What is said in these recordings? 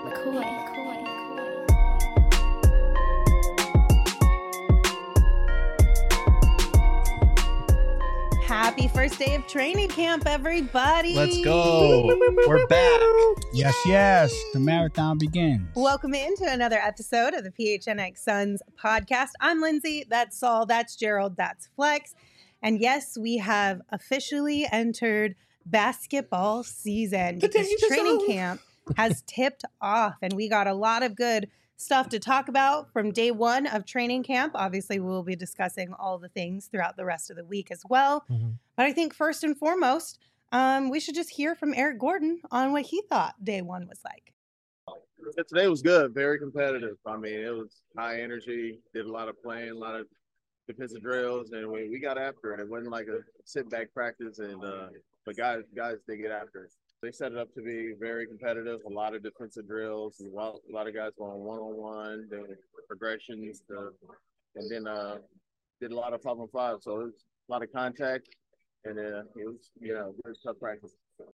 Happy first day of training camp, everybody. Let's go. We're back. Yes. The marathon begins. Welcome into another episode of the PHNX Suns podcast. I'm Lindsay. That's Saul. That's Gerald. That's Flex. And yes, we have officially entered basketball season because training camp has tipped off, and we got a lot of good stuff to talk about from day one of training camp. Obviously, we'll be discussing all the things throughout the rest of the week as well. But I think first and foremost, we should just hear from Eric Gordon on what he thought day one was like. Today was good, very competitive. I mean, it was high energy, did a lot of playing, a lot of defensive drills, and we got after it. It wasn't like a sit-back practice, and but guys they get after it. They set it up to be very competitive, a lot of defensive drills, and a lot of guys going one-on-one, then progressions, and then did a lot of 5-on-5. So it was a lot of contact, and it was, very tough practice.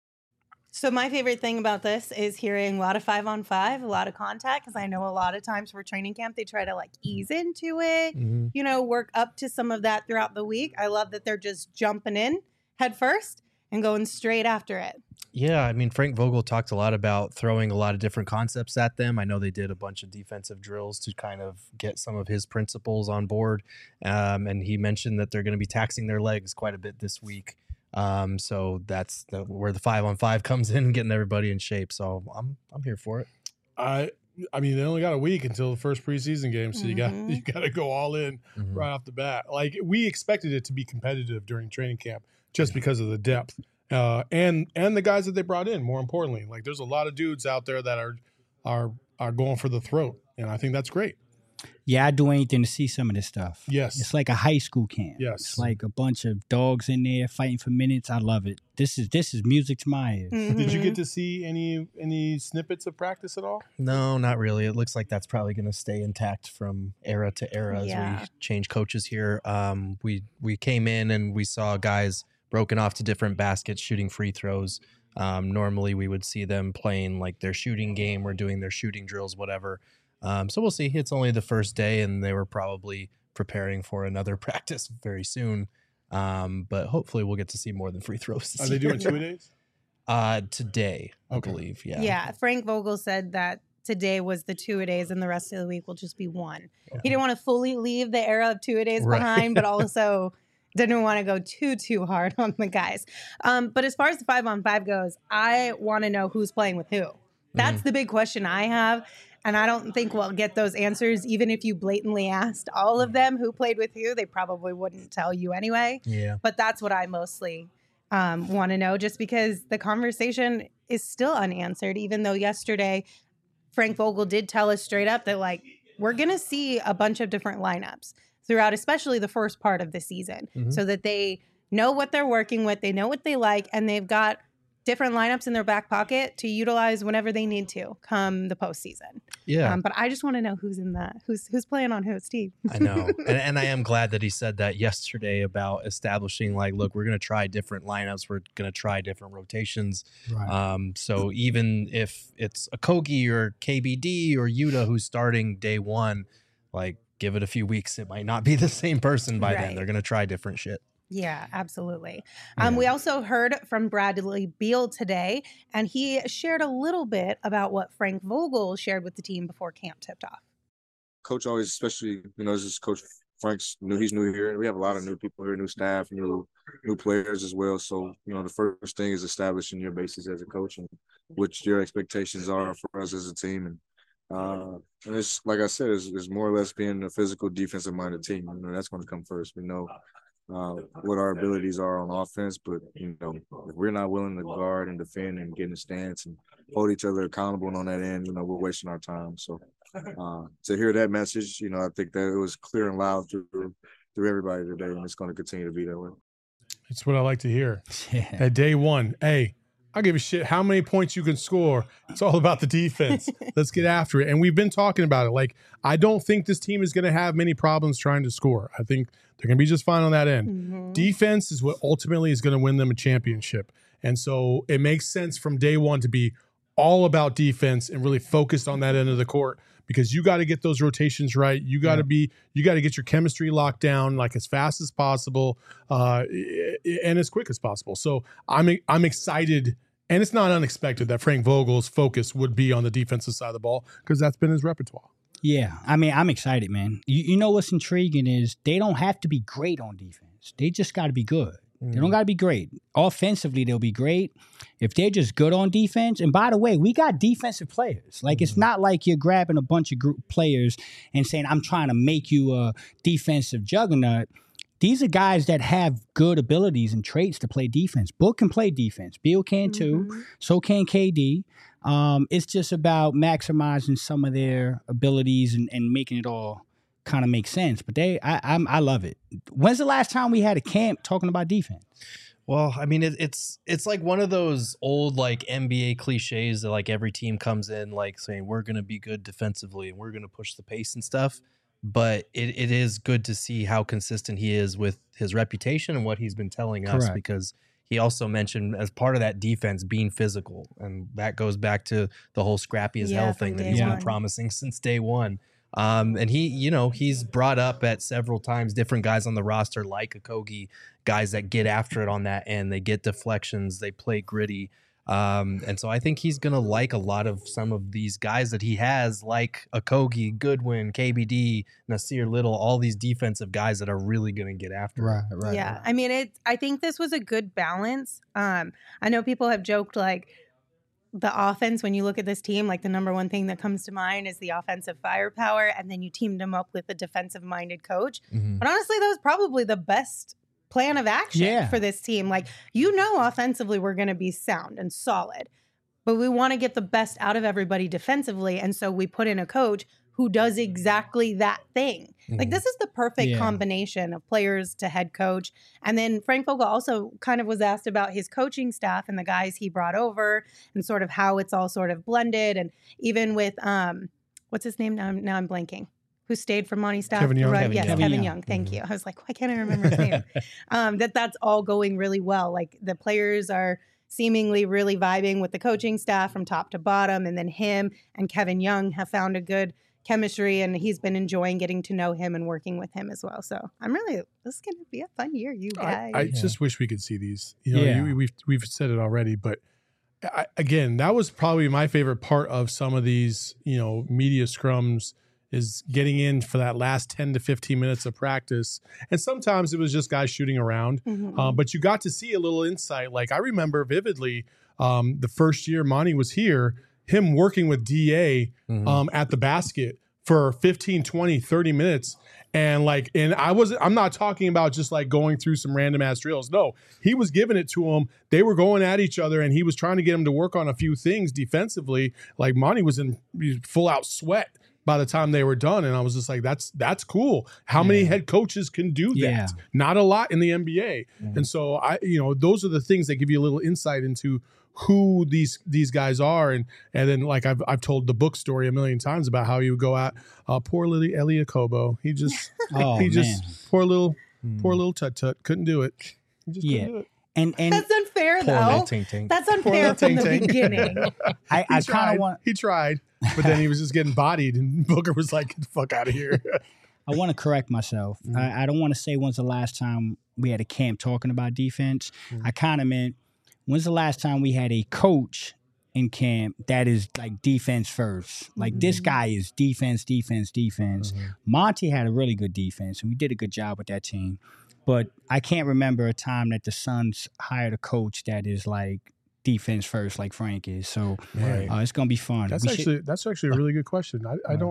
So my favorite thing about this is hearing a lot of 5-on-5, a lot of contact, because I know a lot of times for training camp, they try to like ease into it, work up to some of that throughout the week. I love that they're just jumping in head first and going straight after it. Yeah, I mean, Frank Vogel talked a lot about throwing a lot of different concepts at them. I know they did a bunch of defensive drills to kind of get some of his principles on board. And he mentioned that they're going to be taxing their legs quite a bit this week. So that's where the 5-on-5 comes in, getting everybody in shape. So I'm here for it. I mean, they only got a week until the first preseason game, so you got to go all in right off the bat. Like, we expected it to be competitive during training camp just because of the depth. And the guys that they brought in, more importantly. Like, there's a lot of dudes out there that are going for the throat, and I think that's great. Yeah, I'd do anything to see some of this stuff. Yes. It's like a high school camp. Yes. It's like a bunch of dogs in there fighting for minutes. I love it. This is music to my ears. Did you get to see any snippets of practice at all? No, not really. It looks like that's probably going to stay intact from era to era as we change coaches here. We came in and we saw guys broken off to different baskets, shooting free throws. Normally we would see them playing like their shooting game or doing their shooting drills, whatever. So we'll see. It's only the first day, and they were probably preparing for another practice very soon. But hopefully we'll get to see more than free throws. Are they doing 2 days? Today, I believe. Yeah. Yeah. Frank Vogel said that today was the 2-a-days and the rest of the week will just be one. Yeah. He didn't want to fully leave the era of 2-a-days behind, but also didn't want to go too hard on the guys. But as far as the 5-on-5 goes, I want to know who's playing with who. That's the big question I have. And I don't think we'll get those answers. Even if you blatantly asked all of them who played with who, they probably wouldn't tell you anyway. Yeah. But that's what I mostly want to know, just because the conversation is still unanswered, even though yesterday Frank Vogel did tell us straight up that, like, we're going to see a bunch of different lineups throughout, especially the first part of the season, so that they know what they're working with, they know what they like, and they've got different lineups in their back pocket to utilize whenever they need to come the postseason. Yeah. But I just want to know who's in that, who's playing on who, Steve. I know. and I am glad that he said that yesterday about establishing, like, look, we're going to try different lineups. We're going to try different rotations. Right. So even if it's a Kogi or KBD or Yuta who's starting day one, like, give it a few weeks. It might not be the same person by then. They're going to try different shit. Yeah, absolutely. We also heard from Bradley Beal today, and he shared a little bit about what Frank Vogel shared with the team before camp tipped off. Coach always, especially, this is Coach Frank's he's new here. We have a lot of new people here, new staff, new players as well. So, the first thing is establishing your basis as a coach and what your expectations are for us as a team. And it's, like I said, it's more or less being a physical, defensive-minded team. That's going to come first. We know what our abilities are on offense, but if we're not willing to guard and defend and get in the stance and hold each other accountable on that end, we're wasting our time. So to hear that message, I think that it was clear and loud through everybody today, and it's going to continue to be that way. It's what I like to hear. At day one, hey, I don't give a shit how many points you can score. It's all about the defense. Let's get after it. And we've been talking about it. Like, I don't think this team is going to have many problems trying to score. I think they're going to be just fine on that end. Mm-hmm. Defense is what ultimately is going to win them a championship. And so it makes sense from day one to be all about defense and really focused on that end of the court, because you got to get those rotations right. You got to get your chemistry locked down like as fast as possible and as quick as possible. So I'm excited, and it's not unexpected that Frank Vogel's focus would be on the defensive side of the ball, because that's been his repertoire. Yeah, I mean, I'm excited, man. You know what's intriguing is they don't have to be great on defense. They just got to be good. They don't got to be great. Offensively, they'll be great. If they're just good on defense, and by the way, we got defensive players. Like, it's not like you're grabbing a bunch of players and saying, I'm trying to make you a defensive juggernaut. These are guys that have good abilities and traits to play defense. Book can play defense. Beal can too. So can KD. It's just about maximizing some of their abilities and making it all kind of make sense. But I love it. When's the last time we had a camp talking about defense? Well, I mean, it's like one of those old like NBA cliches that like every team comes in like saying we're going to be good defensively and we're going to push the pace and stuff. But it is good to see how consistent he is with his reputation and what he's been telling us, because he also mentioned as part of that defense being physical. And that goes back to the whole scrappy as hell thing that he's been promising since day one. And he's brought up at several times different guys on the roster like Okogie, guys that get after it on that end. They get deflections. They play gritty. And so I think he's going to like a lot of some of these guys that he has, like Okogie, Goodwin, KBD, Nasir Little, all these defensive guys that are really going to get after it. Right. Yeah. I mean, I think this was a good balance. I know people have joked like, the offense, when you look at this team, like the number one thing that comes to mind is the offensive firepower, and then you teamed them up with a defensive-minded coach. But honestly, that was probably the best plan of action for this team. Like, offensively, we're going to be sound and solid, but we want to get the best out of everybody defensively, and so we put in a coach who does exactly that thing. Like, this is the perfect combination of players to head coach. And then Frank Vogel also kind of was asked about his coaching staff and the guys he brought over and sort of how it's all sort of blended. And even with, what's his name? Now I'm blanking. Who stayed from Monty's staff? Kevin Young. Kevin Young. Thank you. I was like, why can't I remember his name? That's all going really well. Like, the players are seemingly really vibing with the coaching staff from top to bottom. And then him and Kevin Young have found a good chemistry, and he's been enjoying getting to know him and working with him as well. So this is going to be a fun year, you guys. I just wish we could see these. We've said it already, but again, that was probably my favorite part of some of these, media scrums, is getting in for that last 10 to 15 minutes of practice. And sometimes it was just guys shooting around, but you got to see a little insight. Like, I remember vividly the first year Monty was here, him working with DA at the basket for 15, 20, 30 minutes. And I'm not talking about just like going through some random ass drills. No, he was giving it to them. They were going at each other, and he was trying to get them to work on a few things defensively. Like, Monty was in full out sweat by the time they were done. And I was just like, that's cool. How many head coaches can do that? Yeah. Not a lot in the NBA. And so those are the things that give you a little insight into who these guys are. And then, like, I've told the book story a million times about how he would go out, poor little Elie Okobo. He just poor little tut couldn't do it. He just couldn't do it. And that's unfair, though. That's unfair from the beginning. I kind of want. He tried, but then he was just getting bodied, and Booker was like, "Get the fuck out of here." I want to correct myself. I don't want to say when's the last time we had a camp talking about defense. I kind of meant, when's the last time we had a coach in camp that is like defense first? Like, this guy is defense. Monty had a really good defense, and we did a good job with that team. But I can't remember a time that the Suns hired a coach that is like defense first, like Frank is. So it's gonna be fun. That's actually a really good question.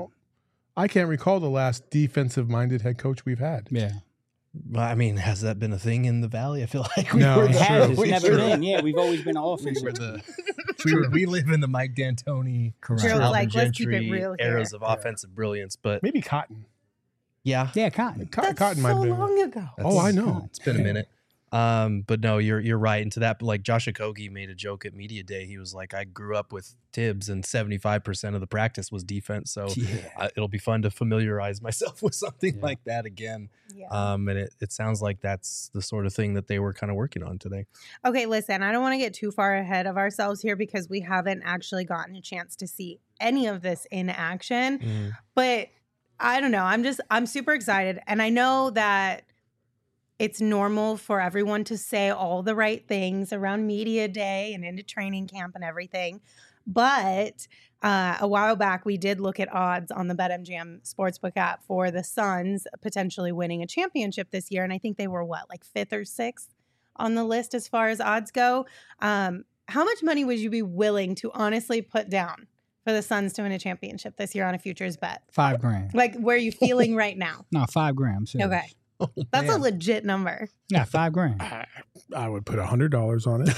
I can't recall the last defensive minded head coach we've had. Yeah. Well, I mean, has that been a thing in the Valley? I feel like it has. It's never been. Yeah, we've always been offensive. We live in the Mike D'Antoni, like, let's keep it real eras of offensive brilliance, but maybe Cotton. Yeah, Cotton. Cotton might have been long ago. I know. It's been a minute. But no, you're right. And to that, like Josh Okogie made a joke at media day. He was like, I grew up with Tibbs and 75% of the practice was defense. So it'll be fun to familiarize myself with something like that again. Yeah. And it sounds like that's the sort of thing that they were kind of working on today. Okay, listen, I don't want to get too far ahead of ourselves here because we haven't actually gotten a chance to see any of this in action, but I don't know. I'm super excited. And I know that it's normal for everyone to say all the right things around media day and into training camp and everything. But a while back, we did look at odds on the BetMGM Sportsbook app for the Suns potentially winning a championship this year. And I think they were, like 5th or 6th on the list as far as odds go. How much money would you be willing to honestly put down for the Suns to win a championship this year on a futures bet? $5,000. Like, where are you feeling right now? No, $5,000. Serious. Okay. Oh, that's a legit number. Yeah, $5,000. I would put $100 on it.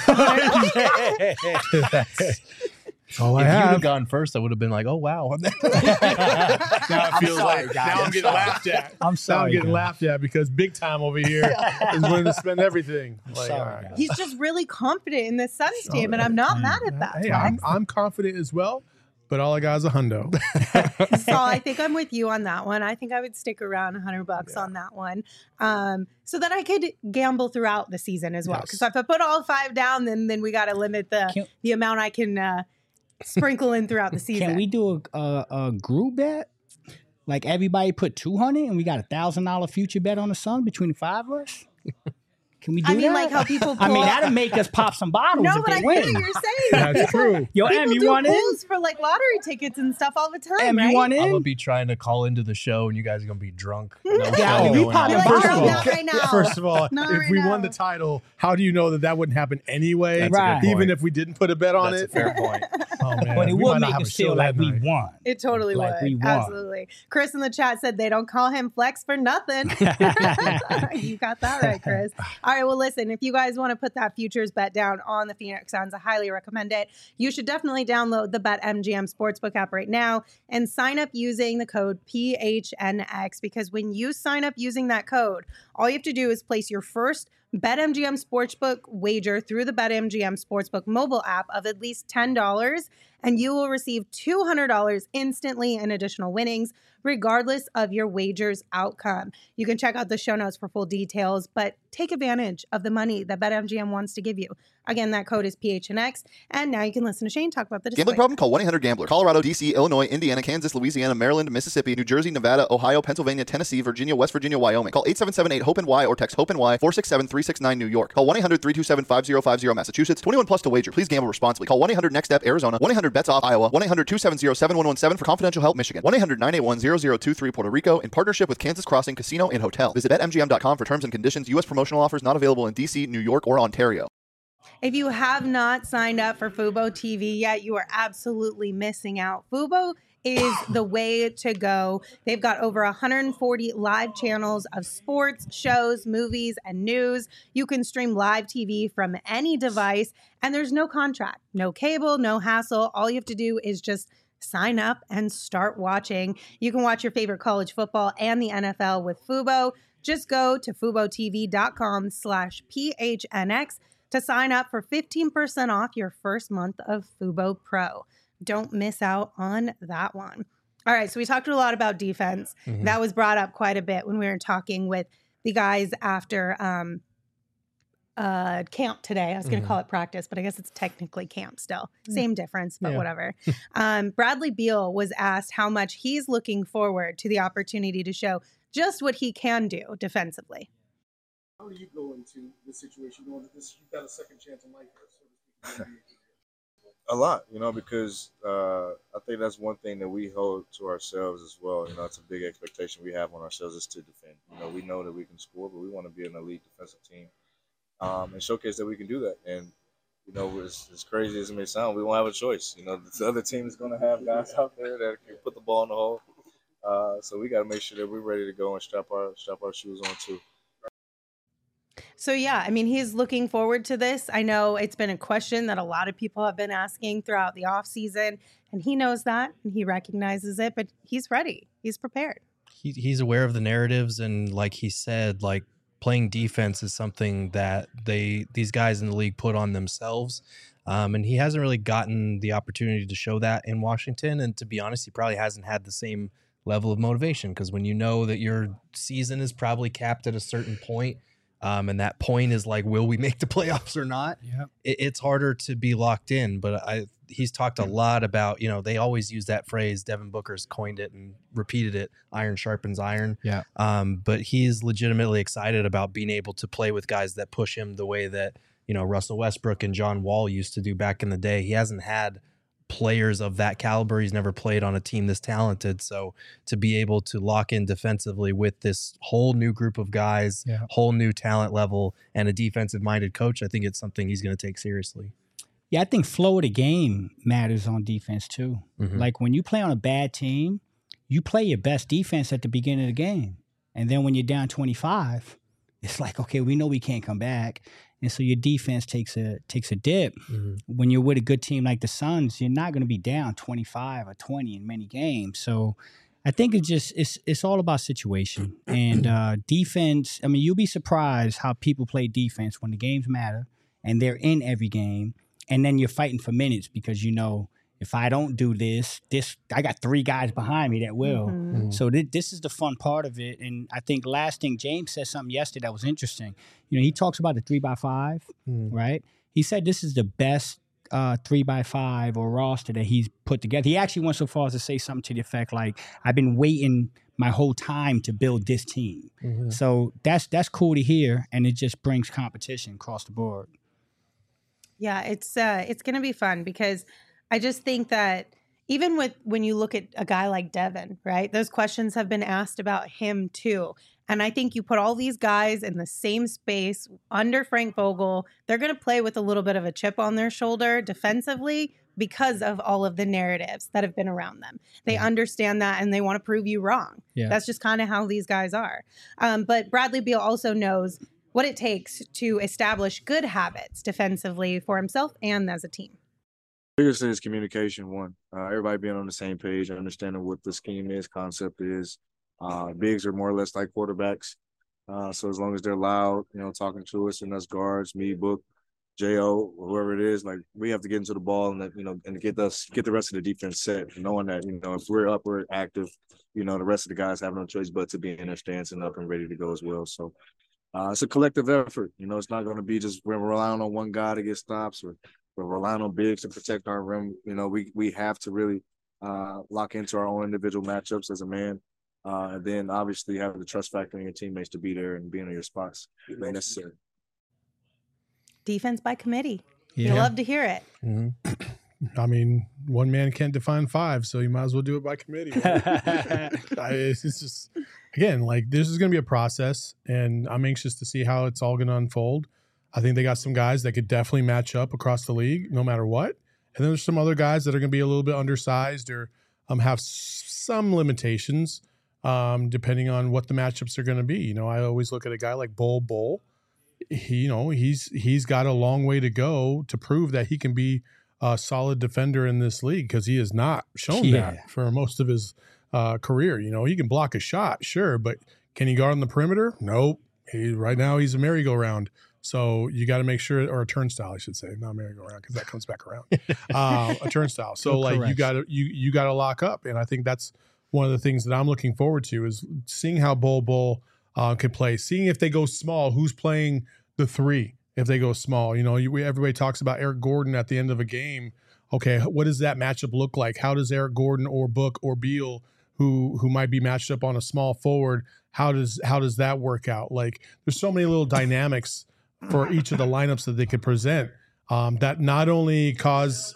That's all I have. If you'd have gone first, I would have been like, oh, wow. Now it feels like now I'm getting laughed at. I'm sorry. Now I'm getting laughed at because big time over here is willing to spend everything. Sorry, he's just really confident in the Suns team, and I'm not mad at that. Hey, I'm confident as well. But all I got is a hundo. So I think I'm with you on that one. I think I would stick around $100 on that one, so that I could gamble throughout the season as well. Because if I put all 5 down, then we got to limit the amount I can sprinkle in throughout the season. Can we do a group bet? Like everybody put $200 and we got $1,000 future bet on the Suns between the 5 of us? Can we do that? I mean, like how people pull that'll make us pop some bottles if they win. I hear what you're saying. That's true. Yo, Em, you want in? For like lottery tickets and stuff all the time, Em, right? you want in? I'm going to be trying to call into the show and you guys are going to be drunk. Yeah, we popping First of all, if we won the title, how do you know that wouldn't happen anyway? Right. Even if we didn't put a bet on it? That's a fair point. Oh, man. But it We would might not make have us a show feel like that we night. won. It totally Like we would. won. Absolutely. Chris in the chat said they don't call him Flex for nothing. You got that right, Chris. All right, well, listen, if you guys want to put that futures bet down on the Phoenix Suns, I highly recommend it. You should definitely download the BetMGM Sportsbook app right now and sign up using the code PHNX, because when you sign up using that code, all you have to do is place your first BetMGM Sportsbook wager through the BetMGM Sportsbook mobile app of at least $10, and you will receive $200 instantly in additional winnings, regardless of your wager's outcome. You can check out the show notes for full details, but take advantage of the money that BetMGM wants to give you. Again, that code is PHNX, and now you can listen to Shane talk about the display. Gambling problem? Call 1-800-GAMBLER. Colorado, D.C., Illinois, Indiana, Kansas, Louisiana, Maryland, Mississippi, New Jersey, Nevada, Ohio, Pennsylvania, Tennessee, Virginia, West Virginia, Wyoming. Call 877-8-HOPE-NY or text HOPE-NY 467-369 New York. Call 1-800-327-5050 Massachusetts. 21 plus to wager. Please gamble responsibly. Call 1-800-NEXT-STEP Arizona. 1-800-BETS-OFF Iowa. 1-800-270-7117 for confidential help Michigan. 1-800-981-0023 Puerto Rico in partnership with Kansas Crossing Casino and Hotel. Visit BetMGM.com for terms and conditions. U.S. promotional offers not available in D.C., New York, or Ontario. If you have not signed up for Fubo TV yet, you are absolutely missing out. Fubo is the way to go. They've got over 140 live channels of sports, shows, movies, and news. You can stream live TV from any device, and there's no contract, no cable, no hassle. All you have to do is just sign up and start watching. You can watch your favorite college football and the NFL with Fubo. Just go to FuboTV.com/PHNX to sign up for 15% off your first month of Fubo Pro. Don't miss out on that one. All right, so we talked a lot about defense. Mm-hmm. That was brought up quite a bit when we were talking with the guys after camp today. I was going to call it practice, but I guess it's technically camp still. Same difference, but whatever. Bradley Beal was asked how much he's looking forward to the opportunity to show just what he can do defensively. How do you go into this situation knowing that you've got a second chance in life? A lot, because I think that's one thing that we hold to ourselves as well. It's a big expectation we have on ourselves is to defend. We know that we can score, but we want to be an elite defensive team and showcase that we can do that. And, as crazy as it may sound, we won't have a choice. The other team is going to have guys out there that can put the ball in the hole. So we got to make sure that we're ready to go and strap our shoes on too. So, yeah, I mean, he's looking forward to this. I know it's been a question that a lot of people have been asking throughout the offseason, and he knows that, and he recognizes it, but he's ready. He's prepared. He's aware of the narratives, and like he said, playing defense is something that these guys in the league put on themselves. And he hasn't really gotten the opportunity to show that in Washington. And to be honest, he probably hasn't had the same level of motivation, because when you know that your season is probably capped at a certain point, and that point is like, will we make the playoffs or not? Yep. It's harder to be locked in. But he's talked a lot about, they always use that phrase. Devin Booker's coined it and repeated it. Iron sharpens iron. Yeah. But he's legitimately excited about being able to play with guys that push him the way that, Russell Westbrook and John Wall used to do back in the day. He hasn't had players of that caliber. He's never played on a team this talented. So to be able to lock in defensively with this whole new group of guys, whole new talent level, and a defensive minded coach, I think it's something he's going to take seriously. Yeah, I think flow of the game matters on defense too. Mm-hmm. Like when you play on a bad team, you play your best defense at the beginning of the game. And then when you're down 25, it's like, okay, we know we can't come back. And so your defense takes a dip. Mm-hmm. When you're with a good team like the Suns, you're not going to be down 25 or 20 in many games. So I think it's all about situation. And defense, I mean, you'll be surprised how people play defense when the games matter and they're in every game. And then you're fighting for minutes because if I don't do this, I got 3 guys behind me that will. Mm-hmm. So this is the fun part of it. And I think last thing, James said something yesterday that was interesting. He talks about the 3x5, right? He said this is the best 3x5 or roster that he's put together. He actually went so far as to say something to the effect like, I've been waiting my whole time to build this team. Mm-hmm. So that's cool to hear, and it just brings competition across the board. Yeah, it's going to be fun because I just think that even when you look at a guy like Devin, right, those questions have been asked about him too. And I think you put all these guys in the same space under Frank Vogel, they're going to play with a little bit of a chip on their shoulder defensively because of all of the narratives that have been around them. They understand that and they want to prove you wrong. Yeah. That's just kind of how these guys are. But Bradley Beal also knows what it takes to establish good habits defensively for himself and as a team. Biggest thing is communication. One, everybody being on the same page, understanding what the scheme is, concept is. Bigs are more or less like quarterbacks. So as long as they're loud, talking to us and us guards, me, Book, J.O., whoever it is, like we have to get into the ball and and get the rest of the defense set, knowing that, if we're up, we're active, the rest of the guys have no choice but to be in their stance and up and ready to go as well. So it's a collective effort. It's not going to be just we're relying on one guy to get stops or we're relying on bigs to protect our rim. We have to really lock into our own individual matchups as a man. And then obviously have the trust factor in your teammates to be there and be in your spots when necessary. Defense by committee. Yeah. You love to hear it. I mean, one man can't define 5, so you might as well do it by committee. It's just, again, like this is going to be a process, and I'm anxious to see how it's all going to unfold. I think they got some guys that could definitely match up across the league no matter what. And then there's some other guys that are going to be a little bit undersized or have some limitations depending on what the matchups are going to be. I always look at a guy like Bol. He's got a long way to go to prove that he can be a solid defender in this league because he has not shown that for most of his career. He can block a shot, sure, but can he guard on the perimeter? Nope. Right now he's a merry-go-round. So you got to make sure, or a turnstile, I should say, not merry-go-round because that comes back around. A turnstile. So you got to lock up, and I think that's one of the things that I'm looking forward to is seeing how Bol can play, seeing if they go small, who's playing the 3 if they go small. Everybody talks about Eric Gordon at the end of a game. Okay, what does that matchup look like? How does Eric Gordon or Book or Beal, who might be matched up on a small forward, how does that work out? Like, there's so many little dynamics for each of the lineups that they could present that not only cause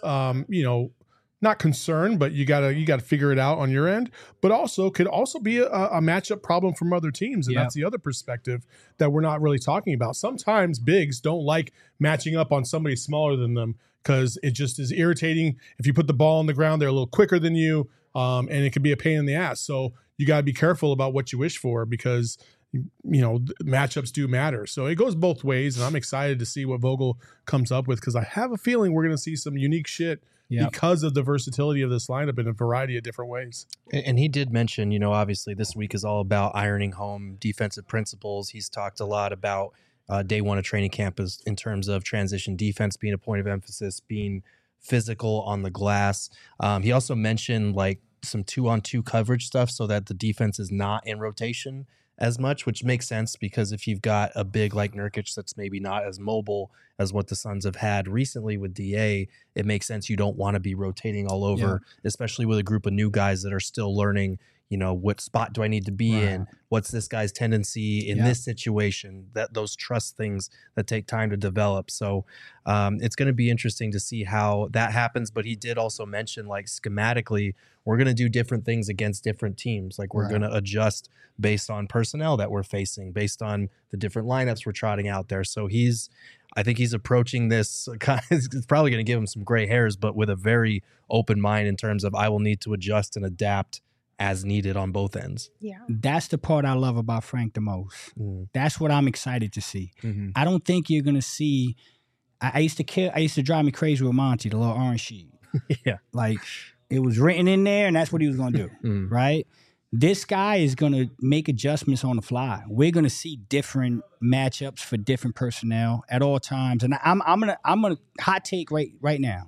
not concern, but you gotta figure it out on your end, but also could also be a matchup problem from other teams, and that's the other perspective that we're not really talking about. Sometimes bigs don't like matching up on somebody smaller than them because it just is irritating. If you put the ball on the ground, they're a little quicker than you, and it can be a pain in the ass. So you gotta be careful about what you wish for because matchups do matter. So it goes both ways, and I'm excited to see what Vogel comes up with, because I have a feeling we're going to see some unique shit because of the versatility of this lineup in a variety of different ways. And he did mention, obviously this week is all about ironing home defensive principles. He's talked a lot about day one of training camp in terms of transition defense being a point of emphasis, being physical on the glass. He also mentioned like some 2-on-2 coverage stuff so that the defense is not in rotation as much, which makes sense because if you've got a big like Nurkic that's maybe not as mobile as what the Suns have had recently with DA, it makes sense you don't want to be rotating all over, especially with a group of new guys that are still learning, what spot do I need to be in? What's this guy's tendency in this situation? Those trust things that take time to develop. So it's going to be interesting to see how that happens. But he did also mention, like, schematically, we're going to do different things against different teams. Like, we're going to adjust based on personnel that we're facing, based on the different lineups we're trotting out there. So I think he's approaching this, it's probably going to give him some gray hairs, but with a very open mind in terms of I will need to adjust and adapt as needed on both ends. Yeah. That's the part I love about Frank the most. That's what I'm excited to see. I don't think you're going to see, I used to drive me crazy with Monty, the little orange sheet. Like, it was written in there and that's what he was going to do, right? This guy is going to make adjustments on the fly. We're going to see different matchups for different personnel at all times. And I'm gonna hot take right now.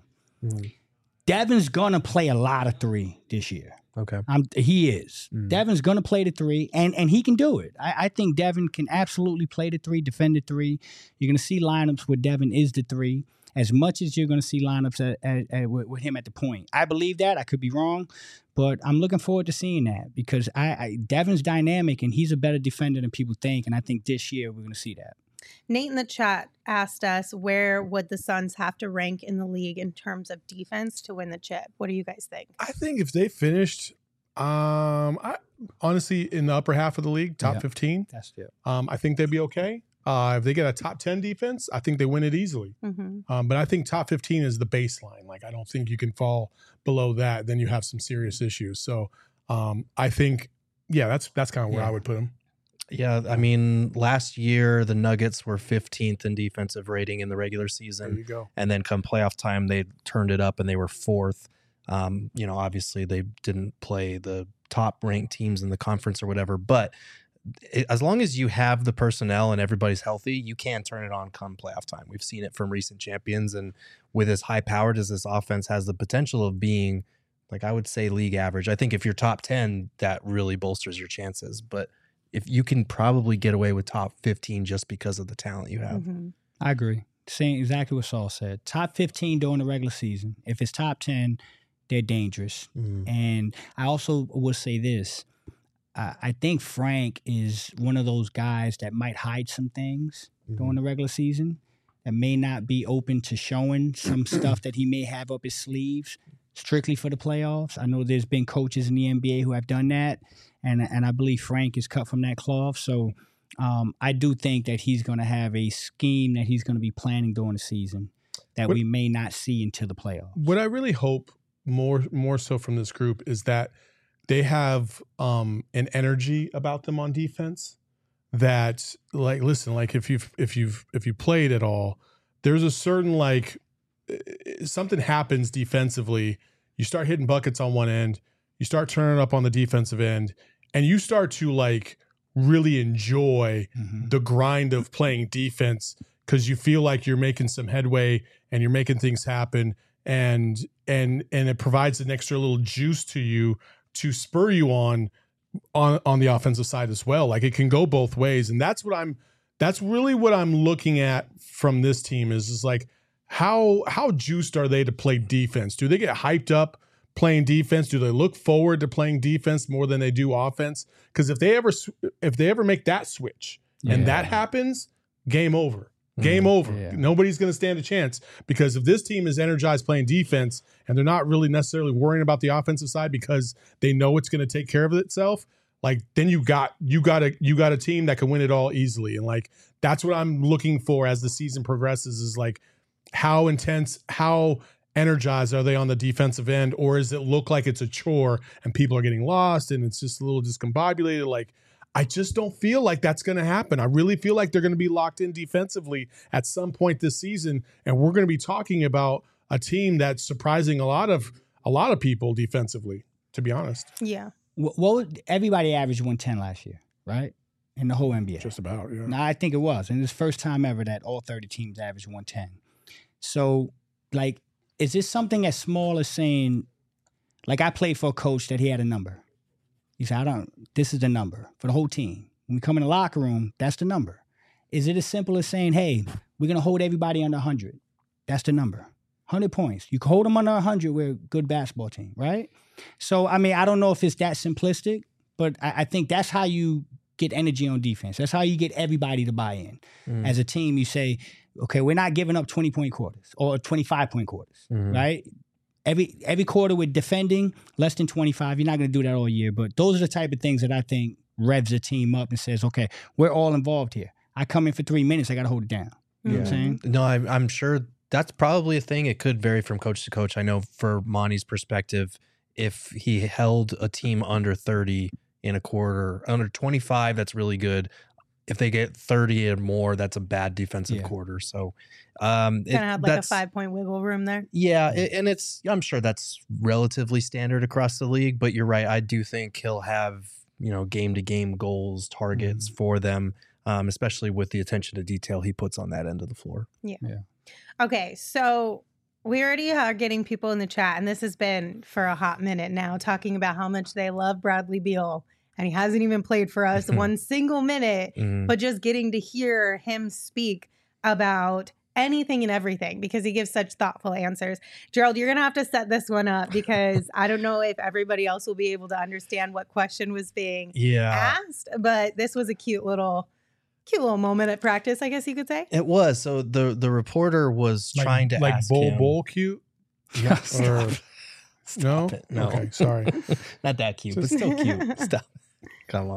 Devin's going to play a lot of 3 this year. Okay. He is. Devin's going to play the 3, and he can do it. I think Devin can absolutely play the 3, defend the 3. You're going to see lineups where Devin is the 3, as much as you're going to see lineups with him at the point. I believe that. I could be wrong, but I'm looking forward to seeing that because Devin's dynamic, and he's a better defender than people think, and I think this year we're going to see that. Nate in the chat asked us, where would the Suns have to rank in the league in terms of defense to win the chip? What do you guys think? I think if they finished, honestly, in the upper half of the league, top 15, I think they'd be okay. If they get a top 10 defense, I think they win it easily. But I think top 15 is the baseline. Like, I don't think you can fall below that. Then you have some serious issues. So I think, that's kind of where I would put them. Yeah, I mean, last year the Nuggets were 15th in defensive rating in the regular season. There you go. And then come playoff time, they turned it up and they were 4th. Obviously they didn't play the top ranked teams in the conference or whatever, but as long as you have the personnel and everybody's healthy, you can turn it on come playoff time. We've seen it from recent champions, and with as high powered as this offense has the potential of being, like, I would say league average. I think if you're top 10, that really bolsters your chances, but if you can probably get away with top 15 just because of the talent you have. I agree. Saying exactly what Saul said. Top 15 during the regular season. If it's top 10, they're dangerous. And I also will say this. I think Frank is one of those guys that might hide some things during the regular season that may not be open to showing some stuff that he may have up his sleeves strictly for the playoffs. I know there's been coaches in the NBA who have done that. And I believe Frank is cut from that cloth. So I do think that he's going to have a scheme that he's going to be planning during the season that we may not see until the playoffs. What I really hope more so from this group is that they have an energy about them on defense that, like, listen, like if you played at all, there's a certain, like, something happens defensively. You start hitting buckets on one end, you start turning up on the defensive end, and you start to, like, really enjoy the grind of playing defense because you feel like you're making some headway and you're making things happen, and it provides an extra little juice to you to spur you on the offensive side as well. Like, it can go both ways, and that's really what I'm looking at from this team is like how juiced are they to play defense? Do they get hyped up playing defense? Do they look forward to playing defense more than they do offense? Because if they ever make that switch and that happens, game over. Game over. Yeah. Nobody's going to stand a chance, because if this team is energized playing defense and they're not really necessarily worrying about the offensive side because they know it's going to take care of itself, like, then you got a team that can win it all easily. And, like, that's what I'm looking for as the season progresses is, like, how intense, how energized are they on the defensive end, or does it look like it's a chore and people are getting lost and it's just a little discombobulated? Like, I just don't feel like that's going to happen. I really feel like they're going to be locked in defensively at some point this season, and we're going to be talking about a team that's surprising a lot of people defensively, to be honest. Yeah. What would everybody averaged 110 last year, right? In the whole NBA. Just about, yeah. No, I think it was. And it's the first time ever that all 30 teams averaged 110. So, like, is this something as small as saying, like, I played for a coach that he had a number. He said, this is the number for the whole team. When we come in the locker room, that's the number. Is it as simple as saying, hey, we're going to hold everybody under 100? That's the number. 100 points. You can hold them under 100. We're a good basketball team, right? So, I mean, I don't know if it's that simplistic, but I think that's how you get energy on defense. That's how you get everybody to buy in. As a team, you say, okay, we're not giving up 20-point quarters or 25-point quarters, right? Every quarter with defending less than 25. You're not going to do that all year, but those are the type of things that I think revs a team up and says, okay, we're all involved here. I come in for 3 minutes, I got to hold it down. You know what I'm saying? No, I'm sure that's probably a thing. It could vary from coach to coach. I know for Monty's perspective, if he held a team under 30 in a quarter, under 25, that's really good. If they get 30 or more, that's a bad defensive quarter. So kind of had like a 5-point wiggle room there. Yeah, and I'm sure that's relatively standard across the league, but you're right. I do think he'll have, game-to-game goals, targets for them, especially with the attention to detail he puts on that end of the floor. Yeah. Okay, so we already are getting people in the chat, and this has been for a hot minute now, talking about how much they love Bradley Beal. And he hasn't even played for us one single minute, but just getting to hear him speak about anything and everything because he gives such thoughtful answers. Gerald, you're going to have to set this one up because I don't know if everybody else will be able to understand what question was being asked, but this was a cute little moment at practice, I guess you could say. It was. So the reporter was trying to ask him. Bull cute? Yes. No? No. Okay, sorry. Not that cute, but still cute. Stop. Come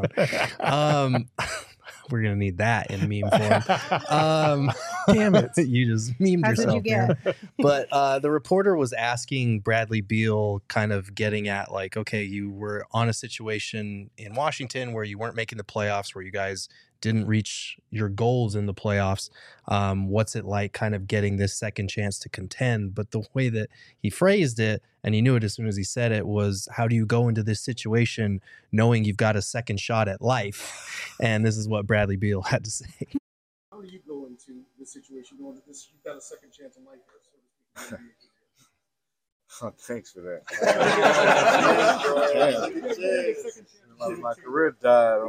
on. We're going to need that in meme form. Damn it. You just memed That's yourself. what you get. Man. But the reporter was asking Bradley Beal, kind of getting at like, okay, you were on a situation in Washington where you weren't making the playoffs, where you guys didn't reach your goals in the playoffs. What's it like kind of getting this second chance to contend? But the way that he phrased it, and he knew it as soon as he said it, was how do you go into this situation knowing you've got a second shot at life? And this is what Bradley Beal had to say. How do you go into this situation knowing that you've got a second chance in life? So to speak? Oh, thanks for that. My career died.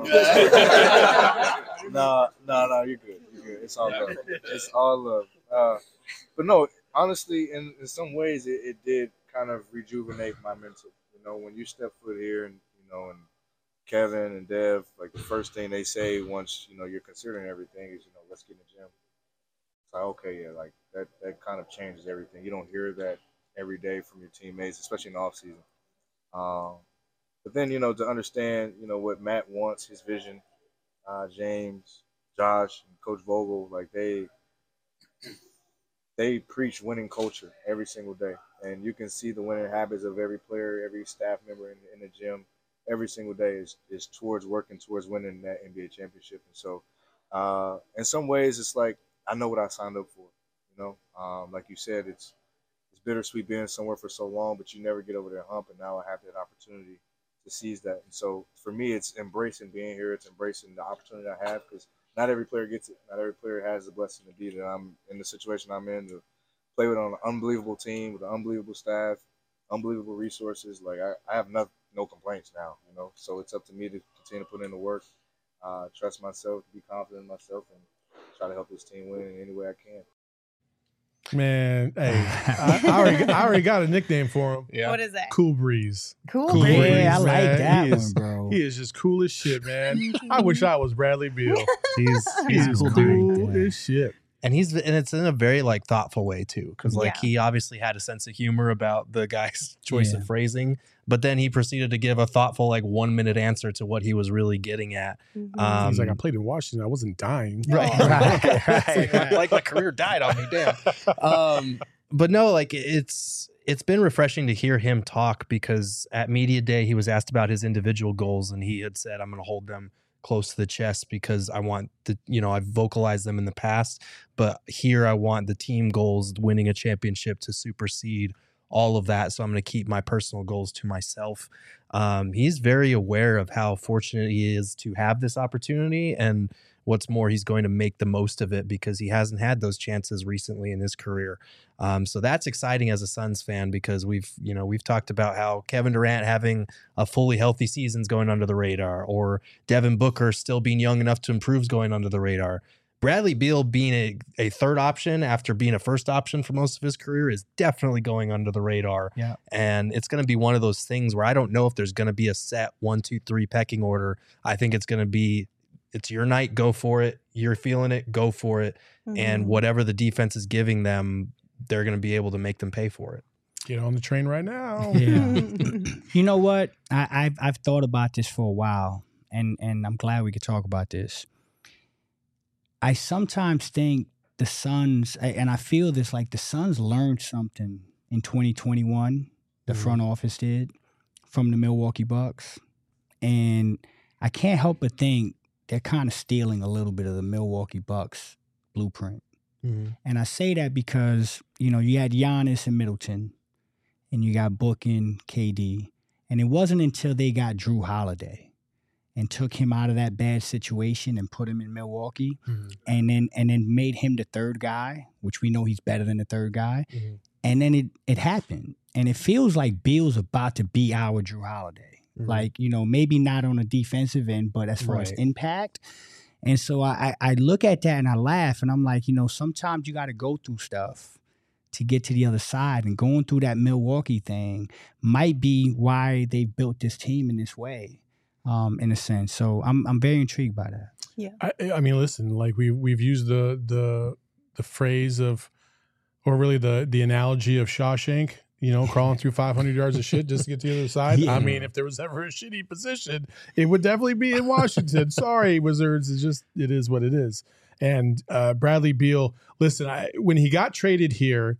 No, you're good. You're good. It's all love. It's all love. But no, honestly, in some ways, it did kind of rejuvenate my mental. When you step foot here, and and Kevin and Dev, like the first thing they say once you're considering everything is let's get in the gym. It's like okay, yeah, like that kind of changes everything. You don't hear that every day from your teammates, especially in the off season. But then, to understand, what Matt wants, his vision, James, Josh, and Coach Vogel, like they preach winning culture every single day. And you can see the winning habits of every player, every staff member in the gym every single day is towards working towards winning that NBA championship. And so in some ways, it's like I know what I signed up for, like you said, it's bittersweet being somewhere for so long, but you never get over that hump. And now I have that opportunity to seize that. And so for me, it's embracing being here. It's embracing the opportunity I have because not every player gets it. Not every player has the blessing to be that I'm in the situation I'm in to play with on an unbelievable team with an unbelievable staff, unbelievable resources. Like I have no complaints now, So it's up to me to continue to put in the work, trust myself, be confident in myself, and try to help this team win in any way I can. Man, hey, I already got a nickname for him. Yeah. What is that? Cool Breeze. Cool Breeze. Yeah, I like that one, bro. He is just cool as shit, man. I wish I was Bradley Beal. He's cool as shit. And it's in a very thoughtful way too, because he obviously had a sense of humor about the guy's choice of phrasing, but then he proceeded to give a thoughtful 1 minute answer to what he was really getting at. He's like, I played in Washington, I wasn't dying. Right. Like my career died on me, damn. But no, it's been refreshing to hear him talk because at media day he was asked about his individual goals and he had said, I'm going to hold them close to the chest because I want I've vocalized them in the past, but here I want the team goals, winning a championship, to supersede all of that. So I'm going to keep my personal goals to myself. He's very aware of how fortunate he is to have this opportunity. And what's more, he's going to make the most of it because he hasn't had those chances recently in his career. So that's exciting as a Suns fan because we've talked about how Kevin Durant having a fully healthy season's going under the radar, or Devin Booker still being young enough to improve is going under the radar. Bradley Beal being a third option after being a first option for most of his career is definitely going under the radar. Yeah. And it's going to be one of those things where I don't know if there's going to be a set 1, 2, 3 pecking order. I think it's going to be, it's your night, go for it. You're feeling it, go for it. Mm-hmm. And whatever the defense is giving them, they're going to be able to make them pay for it. Get on the train right now. Yeah. You know what? I've thought about this for a while, and I'm glad we could talk about this. I sometimes think the Suns, and I feel this, like the Suns learned something in 2021, the front office did, from the Milwaukee Bucks. And I can't help but think they're kind of stealing a little bit of the Milwaukee Bucks blueprint. Mm-hmm. And I say that because, you had Giannis and Middleton, and you got Book and KD. And it wasn't until they got Drew Holiday and took him out of that bad situation and put him in Milwaukee, and then made him the third guy, which we know he's better than the third guy. Mm-hmm. And then it happened. And it feels like Beal's about to be our Drew Holiday. Mm-hmm. Like, maybe not on a defensive end, but as far as impact. And so I look at that and I laugh, and I'm like, sometimes you got to go through stuff to get to the other side, and going through that Milwaukee thing might be why they built this team in this way. In a sense. So I'm very intrigued by that. Yeah. I mean, listen, like we've used the phrase of, or really the analogy of Shawshank, crawling through 500 yards of shit just to get to the other side. Yeah. I mean, if there was ever a shitty position, it would definitely be in Washington. Sorry, Wizards. It is what it is. And Bradley Beal, listen, when he got traded here,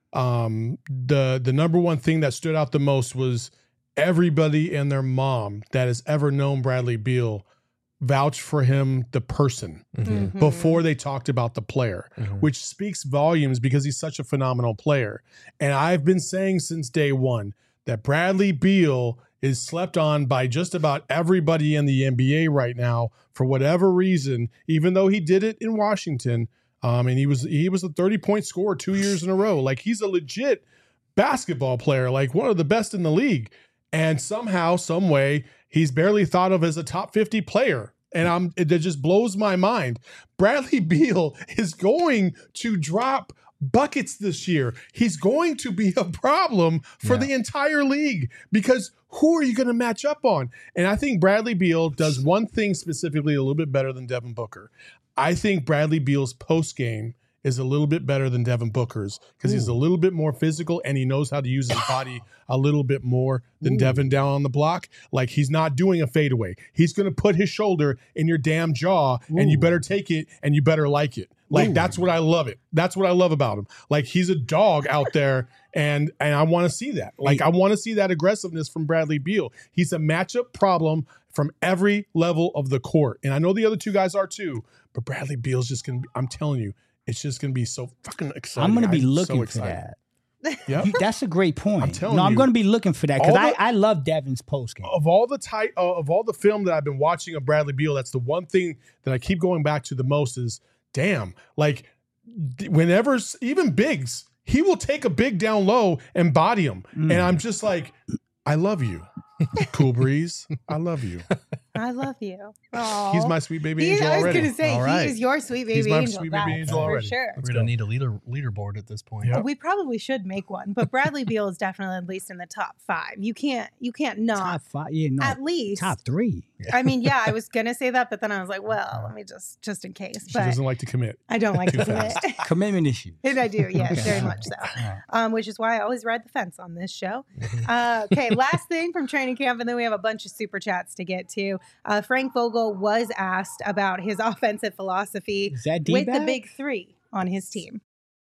the number one thing that stood out the most was everybody and their mom that has ever known Bradley Beal vouched for him, the person, before they talked about the player, which speaks volumes because he's such a phenomenal player. And I've been saying since day one that Bradley Beal is slept on by just about everybody in the NBA right now for whatever reason, even though he did it in Washington. And he was a 30-point scorer 2 years in a row. Like, he's a legit basketball player, like one of the best in the league. And somehow, some way, he's barely thought of as a top 50 player. And it just blows my mind. Bradley Beal is going to drop buckets this year. He's going to be a problem for the entire league, because who are you going to match up on? And I think Bradley Beal does one thing specifically a little bit better than Devin Booker. I think Bradley Beal's post game is a little bit better than Devin Booker's, because he's a little bit more physical and he knows how to use his body a little bit more than Devin down on the block. Like, he's not doing a fadeaway. He's going to put his shoulder in your damn jaw, and you better take it and you better like it. Like, that's what I love it. That's what I love about him. Like, he's a dog out there, and I want to see that. Like, I want to see that aggressiveness from Bradley Beal. He's a matchup problem from every level of the court. And I know the other two guys are too, but Bradley Beal's just going to be, I'm telling you, it's just going to be so fucking exciting. I'm going to be looking for that. Yep. That's a great point. I'm telling you. I'm going to be looking for that, because I love Devin's postgame. Of all the film that I've been watching of Bradley Beal, that's the one thing that I keep going back to the most is, damn, like, whenever, even bigs, he will take a big down low and body him. And I'm just like, I love you. Cool Breeze, I love you. I love you. Aww. He's my sweet baby angel already. I was going to say, he is your sweet baby angel. He's my sweet baby angel already. For sure. We're going to need a leaderboard at this point. Yep. We probably should make one, but Bradley Beal is definitely at least in the top 5. You can't not. Top 5? Yeah, no. At least. Top 3. I mean, yeah, I was going to say that, but then I was like, well, let me just in case. She doesn't like to commit. I don't like to commit. Commitment issue. And I do, yes, very much so. Which is why I always ride the fence on this show. Okay, last thing from training camp, and then we have a bunch of super chats to get to. Frank Vogel was asked about his offensive philosophy with the big 3 on his team.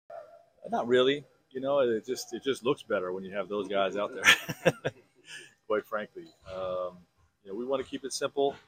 Not really. It just looks better when you have those guys out there. Quite frankly, we want to keep it simple.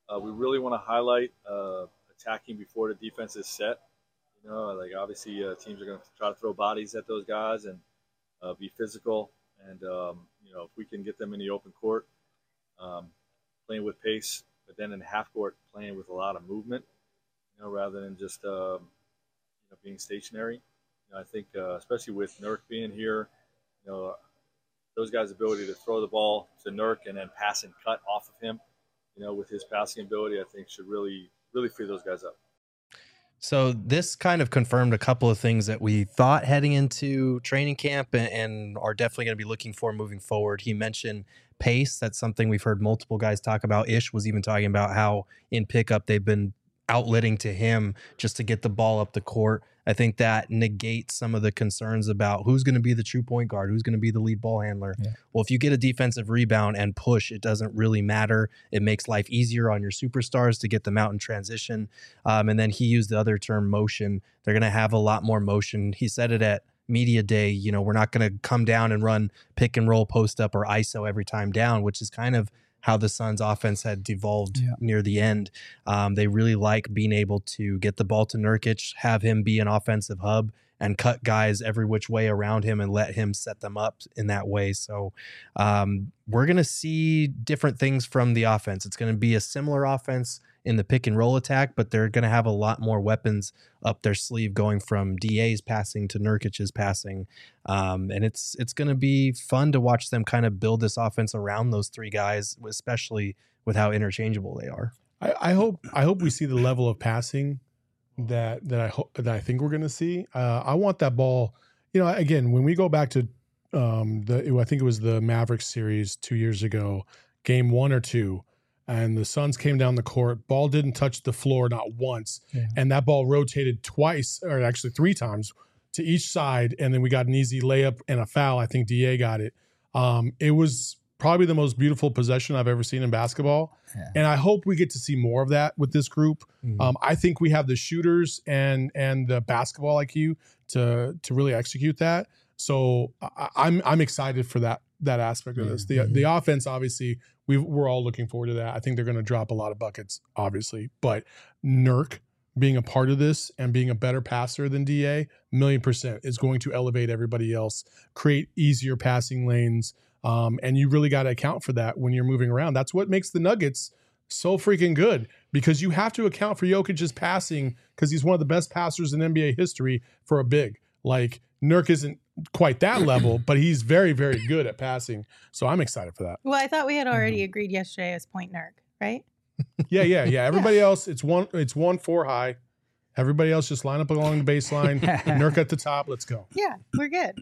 we really want to highlight attacking before the defense is set. You know, like obviously teams are going to try to throw bodies at those guys and be physical. And, you know, if we can get them in the open court, playing with pace, but then in the half court, playing with a lot of movement, you know, rather than just, you know, being stationary. You know, I think, especially with Nurk being here, you know, those guys' ability to throw the ball to Nurk and then pass and cut off of him, you know, with his passing ability, I think should really free those guys up. So this kind of confirmed a couple of things that we thought heading into training camp and are definitely going to be looking for moving forward. He mentioned pace. That's something we've heard multiple guys talk about. Ish was even talking about how in pickup they've been outletting to him just to get the ball up the court. I think that negates some of the concerns about who's going to be the true point guard, who's going to be the lead ball handler. Yeah. Well, if you get a defensive rebound and push, it doesn't really matter. It makes life easier on your superstars to get them out in transition. And then he used the other term, motion. They're going to have a lot more motion. He said it at media day, you know, we're not going to come down and run pick and roll, post up, or ISO every time down, which is kind of how the Suns offense had devolved near the end. They really like being able to get the ball to Nurkic, have him be an offensive hub, and cut guys every which way around him and let him set them up in that way. So we're going to see different things from the offense. It's going to be a similar offense in the pick and roll attack, but they're going to have a lot more weapons up their sleeve going from DA's passing to Nurkic's passing. And it's going to be fun to watch them kind of build this offense around those three guys, especially with how interchangeable they are. I hope we see the level of passing that I think we're going to see. I want that ball, you know, again, when we go back to I think it was the Mavericks series 2 years ago, game 1 or 2, and the Suns came down the court, ball didn't touch the floor not once, and that ball rotated twice, or actually 3 times to each side, and then we got an easy layup and a foul. I think DA got it. It was probably the most beautiful possession I've ever seen in basketball, and I hope we get to see more of that with this group. I think we have the shooters and the basketball IQ to really execute that. So I'm excited for that aspect of this. The offense, obviously, we're all looking forward to that. I think they're going to drop a lot of buckets, obviously. But Nurk being a part of this and being a better passer than DA, 1,000,000% is going to elevate everybody else, create easier passing lanes. And you really got to account for that when you're moving around. That's what makes the Nuggets so freaking good, because you have to account for Jokic's passing, because he's one of the best passers in NBA history for a big. Like, Nurk isn't quite that level, but he's very, very good at passing. So I'm excited for that. Well, I thought we had already agreed yesterday as point Nurk, right? Yeah. Everybody else, it's 1-4 high. Everybody else just line up along the baseline. Nurk at the top. Let's go. Yeah, we're good.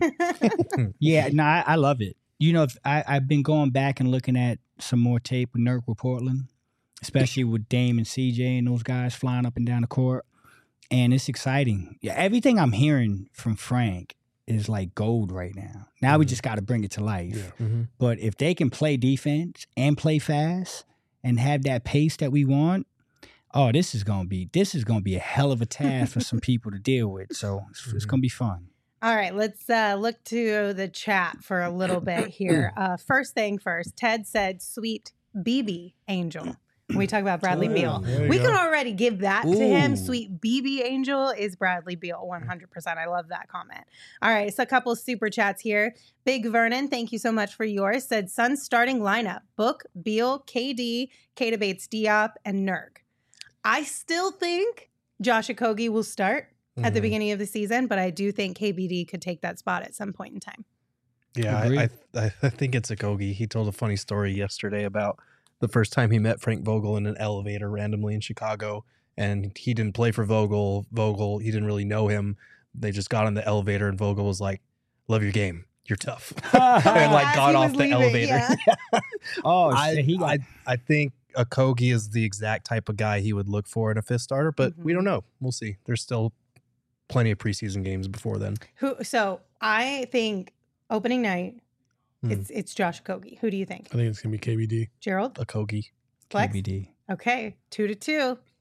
I love it. You know, I've been going back and looking at some more tape with Nurk with Portland, especially with Dame and CJ and those guys flying up and down the court. And it's exciting. Yeah, everything I'm hearing from Frank is like gold right now. Now we just got to bring it to life. Yeah. But if they can play defense and play fast and have that pace that we want, this is gonna be a hell of a task for some people to deal with. So it's gonna be fun. All right, let's look to the chat for a little bit here. First thing first, Ted said, "Sweet BB Angel." When we talk about Bradley Beal, we can already give that to him. Sweet BB Angel is Bradley Beal, 100%. I love that comment. All right, so a couple of super chats here. Big Vernon, thank you so much for yours. Said Suns starting lineup: Book, Beal, KD, Keita Bates, Diop, and Nurk. I still think Josh Okogie will start at the beginning of the season, but I do think KBD could take that spot at some point in time. Yeah, I think it's Okogie. He told a funny story yesterday about the first time he met Frank Vogel in an elevator randomly in Chicago, and he didn't play for Vogel. He didn't really know him. They just got on the elevator, and Vogel was like, "Love your game. You're tough," and like got off the elevator. Yeah. I think Okogie is the exact type of guy he would look for in a fifth starter, but we don't know. We'll see. There's still plenty of preseason games before then. So I think opening night, it's Josh Okogie. Who do you think? I think it's gonna be KBD. Gerald? Okogie. Flex? KBD. Okay, 2-2.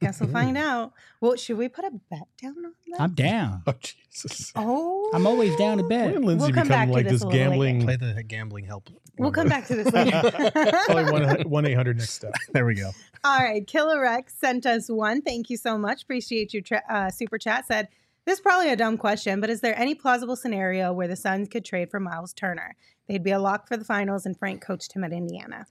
Guess we'll find out. Well, should we put a bet down on that? I'm down. Oh Jesus! Oh, I'm always down to bet. When Lindsay We'll come become back to like this this a little gambling? Play the gambling help. we'll come back to this later. Probably 1-800 next step. There we go. All right, Killer Rex sent us one. Thank you so much. Appreciate your super chat. Said, this is probably a dumb question, but is there any plausible scenario where the Suns could trade for Miles Turner? They'd be a lock for the finals, and Frank coached him at Indiana.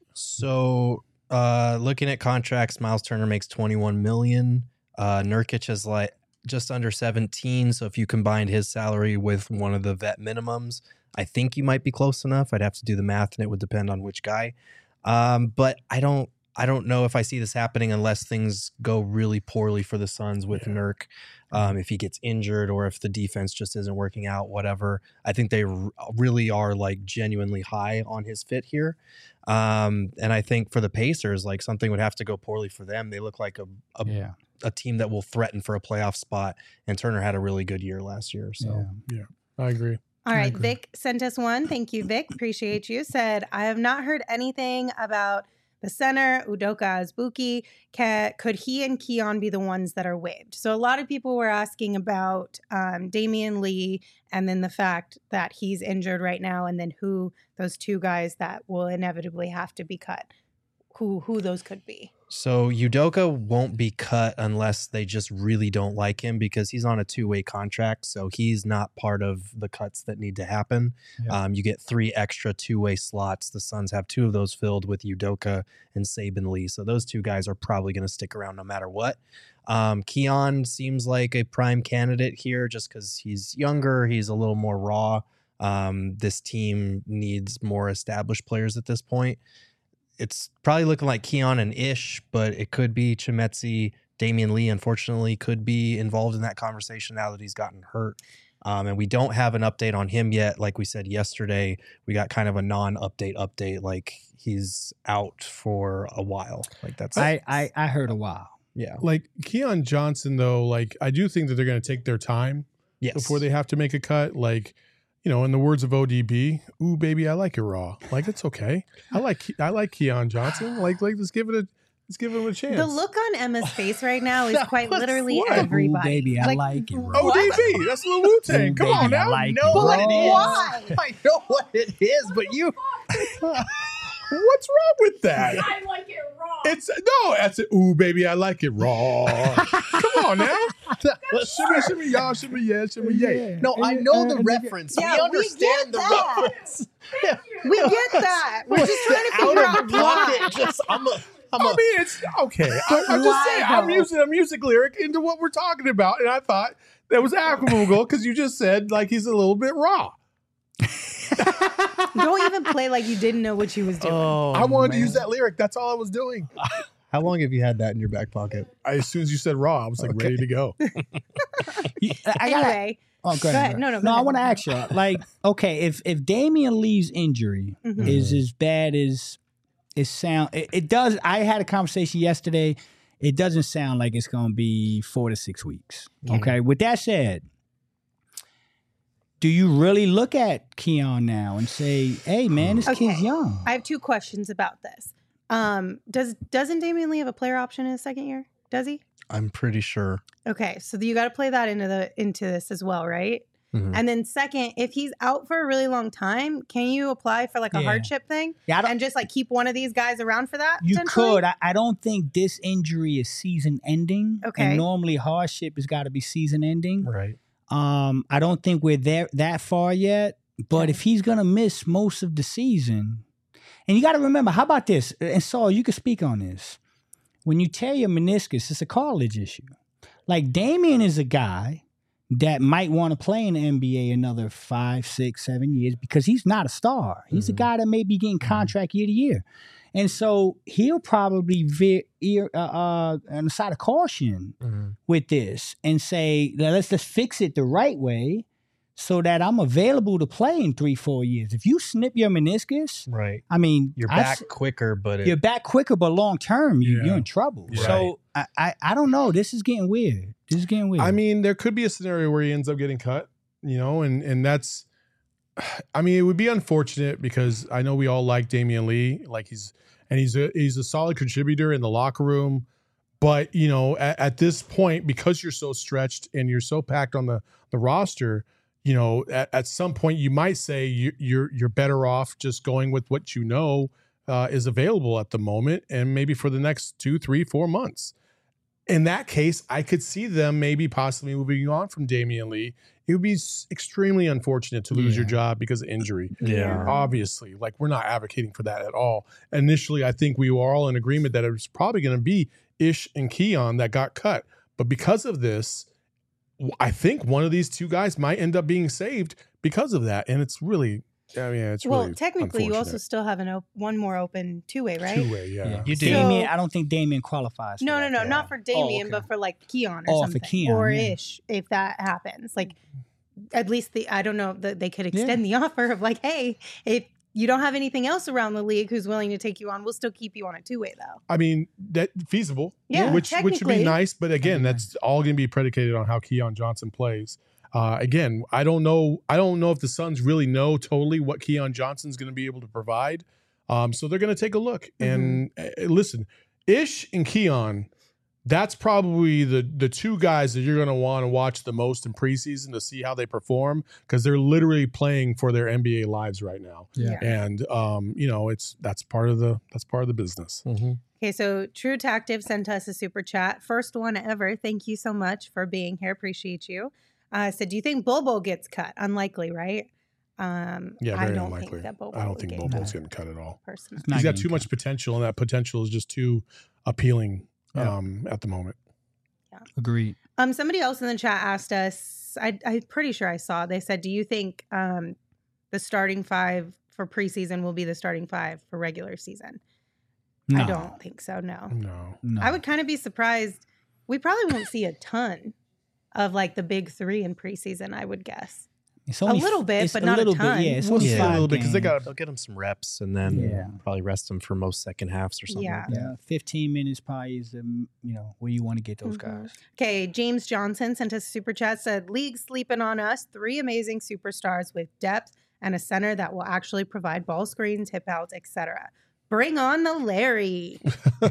So looking at contracts, Miles Turner makes $21 million. Nurkic is like just under 17. So if you combined his salary with one of the vet minimums, I think you might be close enough. I'd have to do the math, and it would depend on which guy. But I don't know if I see this happening unless things go really poorly for the Suns with Nurk. If he gets injured or if the defense just isn't working out, whatever. I think they really are like genuinely high on his fit here. And I think for the Pacers, like something would have to go poorly for them. They look like a team that will threaten for a playoff spot. And Turner had a really good year last year. So yeah, I agree. All right, Vic sent us one. Thank you, Vic. Appreciate you. Said, I have not heard anything about the center, Udoka Azubuike. Could he and Keon be the ones that are waived? So a lot of people were asking about Damian Lee and then the fact that he's injured right now, and then who those two guys that will inevitably have to be cut, who those could be. So Udoka won't be cut unless they just really don't like him because he's on a two-way contract. So he's not part of the cuts that need to happen. Yeah. You get 3 extra two-way slots. The Suns have 2 of those filled with Udoka and Saben Lee. So those 2 guys are probably going to stick around no matter what. Keon seems like a prime candidate here just because he's younger. He's a little more raw. This team needs more established players at this point. It's probably looking like Keon and Ish, but it could be Chimezie. Damian Lee, unfortunately, could be involved in that conversation now that he's gotten hurt. And we don't have an update on him yet. Like we said yesterday, we got kind of a non-update update. Like he's out for a while. Like that's I heard a while. Yeah. Like Keon Johnson, though, like I do think that they're going to take their time before they have to make a cut. Like, you know, in the words of ODB, ooh, baby, I like it raw. Like, it's okay. I like Keon Johnson. Like, let's give him a chance. The look on Emma's face right now is quite literally everybody. Ooh, baby, I like it raw. ODB, that's Lil Wu-Tang. Come on now. I know what it is. Why? I know what it is, but you... What's wrong with that? I like it raw. That's it. Ooh, baby, I like it raw. Come on now. Shimmy, y'all, shimmy, yeah, shimmy, yeah. No, I know the reference. Yeah, we understand the reference. We get that. We're just trying to figure out why. I mean, it's okay. I'm just saying. I'm using a music lyric into what we're talking about, and I thought that was applicable because you just said like he's a little bit raw. Don't even play like you didn't know what you was doing. I wanted to use that lyric. That's all I was doing. How long have you had that in your back pocket? As soon as you said raw, I was like ready to go. Anyway. Oh, go ahead. No, I want to ask you, like, okay, if Damian Lee's injury is as bad as it does. I had a conversation yesterday. It doesn't sound like it's going to be 4 to 6 weeks. Okay. With that said, do you really look at Keon now and say, hey, man, this kid's young? I have 2 questions about this. Doesn't Damian Lee have a player option in his second year? Does he? I'm pretty sure. Okay, so you got to play that into this as well, right? Mm-hmm. And then second, if he's out for a really long time, can you apply for like a hardship thing? Yeah, and just like keep one of these guys around for that? You could. I don't think this injury is season ending. Okay. And normally hardship has got to be season ending. Right. I don't think we're that far yet. But if he's gonna miss most of the season, and you got to remember, how about this? And Saul, you can speak on this. When you tear your meniscus, it's a cartilage issue. Like Damian is a guy that might want to play in the NBA another 5, 6, 7 years because he's not a star. He's a guy that may be getting contract year to year. And so he'll probably on the side of caution with this and say, let's just fix it the right way so that I'm available to play in 3-4 years. If you snip your meniscus, right? I mean, you're back quicker, but long term, you're in trouble. Right. So I don't know. This is getting weird. I mean, there could be a scenario where he ends up getting cut, you know, and that's, I mean, it would be unfortunate because I know we all like Damian Lee, like he's a solid contributor in the locker room, But at this point, because you're so stretched and you're so packed on the roster, at some point you might say you're better off just going with what is available at the moment, and maybe for the next 2, 3, 4 months. In that case, I could see them maybe possibly moving on from Damian Lee. It would be extremely unfortunate to lose your job because of injury. Yeah. Obviously, we're not advocating for that at all. Initially, I think we were all in agreement that it was probably going to be Ish and Keon that got cut. But because of this, I think one of these two guys might end up being saved because of that. And it's really, really technically, you also still have one more open two-way, right? Two-way, yeah. You Damian, I don't think Damian qualifies. No, not for Damian, but for Keon or something, for Keon, or Ish, if that happens. At least I don't know that they could extend the offer of hey, if you don't have anything else around the league who's willing to take you on, we'll still keep you on a two-way though. I mean, that feasible, which would be nice, but again, that's all going to be predicated on how Keon Johnson plays. Again, I don't know if the Suns really know totally what Keon Johnson's going to be able to provide. So they're going to take a look. And listen, Ish and Keon, that's probably the two guys that you're going to want to watch the most in preseason to see how they perform, because they're literally playing for their NBA lives right now. Yeah. And that's part of the business. Mm-hmm. Okay, so True Tactive sent us a super chat. First one ever. Thank you so much for being here. Appreciate you. Said, do you think Bol gets cut? Unlikely, right? Very unlikely. I don't think Bobo's getting cut at all. Personally, he's got too much potential, and that potential is just too appealing at the moment. Yeah. Agreed. Somebody else in the chat asked us, I'm pretty sure I saw, they said, do you think the starting five for preseason will be the starting five for regular season? No. I don't think so, no. No. I would kind of be surprised. We probably won't see a ton of the big three in preseason, I would guess. It's only a little bit, but a not little a ton. Bit, yeah, it's We'll only see a 5 little bit because games. They'll get them some reps and then probably rest them for most second halves or something. Yeah. Like that. 15 minutes probably is where you want to get those guys. Okay, James Johnson sent us a super chat, said, league sleeping on us, 3 amazing superstars with depth and a center that will actually provide ball screens, hip outs, etc. Bring on the Larry.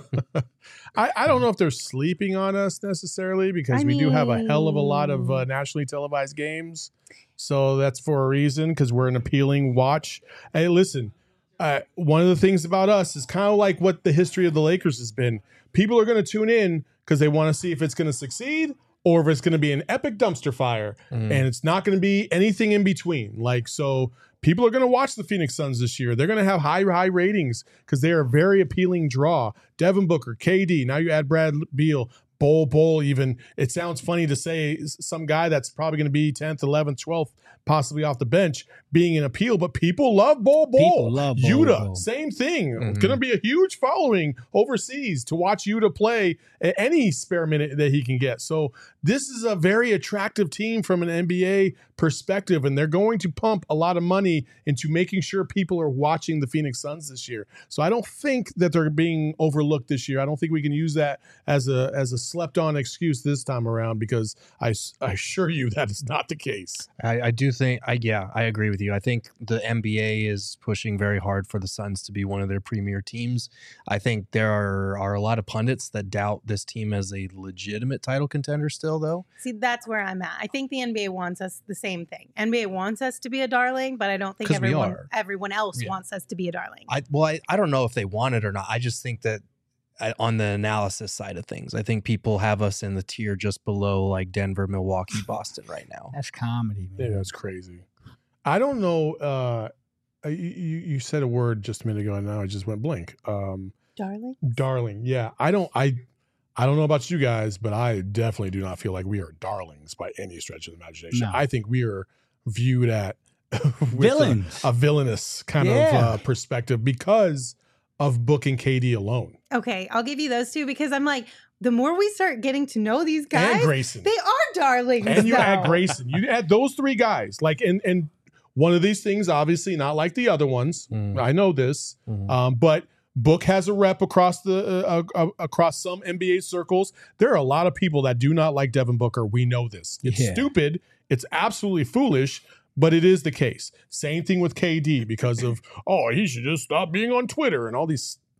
I don't know if they're sleeping on us necessarily, because we do have a hell of a lot of nationally televised games. So that's for a reason, because we're an appealing watch. Hey, listen, one of the things about us is kind of like what the history of the Lakers has been. People are going to tune in because they want to see if it's going to succeed or if it's going to be an epic dumpster fire. And it's not going to be anything in between. So people are going to watch the Phoenix Suns this year. They're going to have high ratings because they are a very appealing draw. Devin Booker, KD, now you add Brad Beal, Bol even. It sounds funny to say some guy that's probably going to be 10th, 11th, 12th, possibly off the bench being an appeal, but people love Bol. People love Bol. Yuta, same thing. It's going to be a huge following overseas to watch Yuta play any spare minute that he can get. So this is a very attractive team from an NBA perspective, and they're going to pump a lot of money into making sure people are watching the Phoenix Suns this year. So I don't think that they're being overlooked this year. I don't think we can use that as a slept-on excuse this time around, because I assure you that is not the case. I do think, I agree with you. I think the NBA is pushing very hard for the Suns to be one of their premier teams. I think there are a lot of pundits that doubt this team as a legitimate title contender still, though. See, that's where I'm at. I think the NBA wants us the same thing. NBA wants us to be a darling, but I don't think everyone else wants us to be a darling. I don't know if they want it or not. I just think that on the analysis side of things, I think people have us in the tier just below Denver, Milwaukee, Boston right now. That's comedy, man. Yeah, that's crazy. I don't know. You said a word just a minute ago, and now I just went blank. Darling. Yeah, I don't know about you guys, but I definitely do not feel like we are darlings by any stretch of the imagination. No. I think we are viewed at villains, a villainous kind of perspective because of Book and KD alone. Okay, I'll give you those two, because I'm the more we start getting to know these guys, and Grayson, they are darlings. And you add Grayson, you add those 3 guys, and one of these things, obviously not like the other ones. I know this, but Book has a rep across across some NBA circles. There are a lot of people that do not like Devin Booker. We know this. It's stupid. It's absolutely foolish, but it is the case. Same thing with KD, because of, he should just stop being on Twitter and all these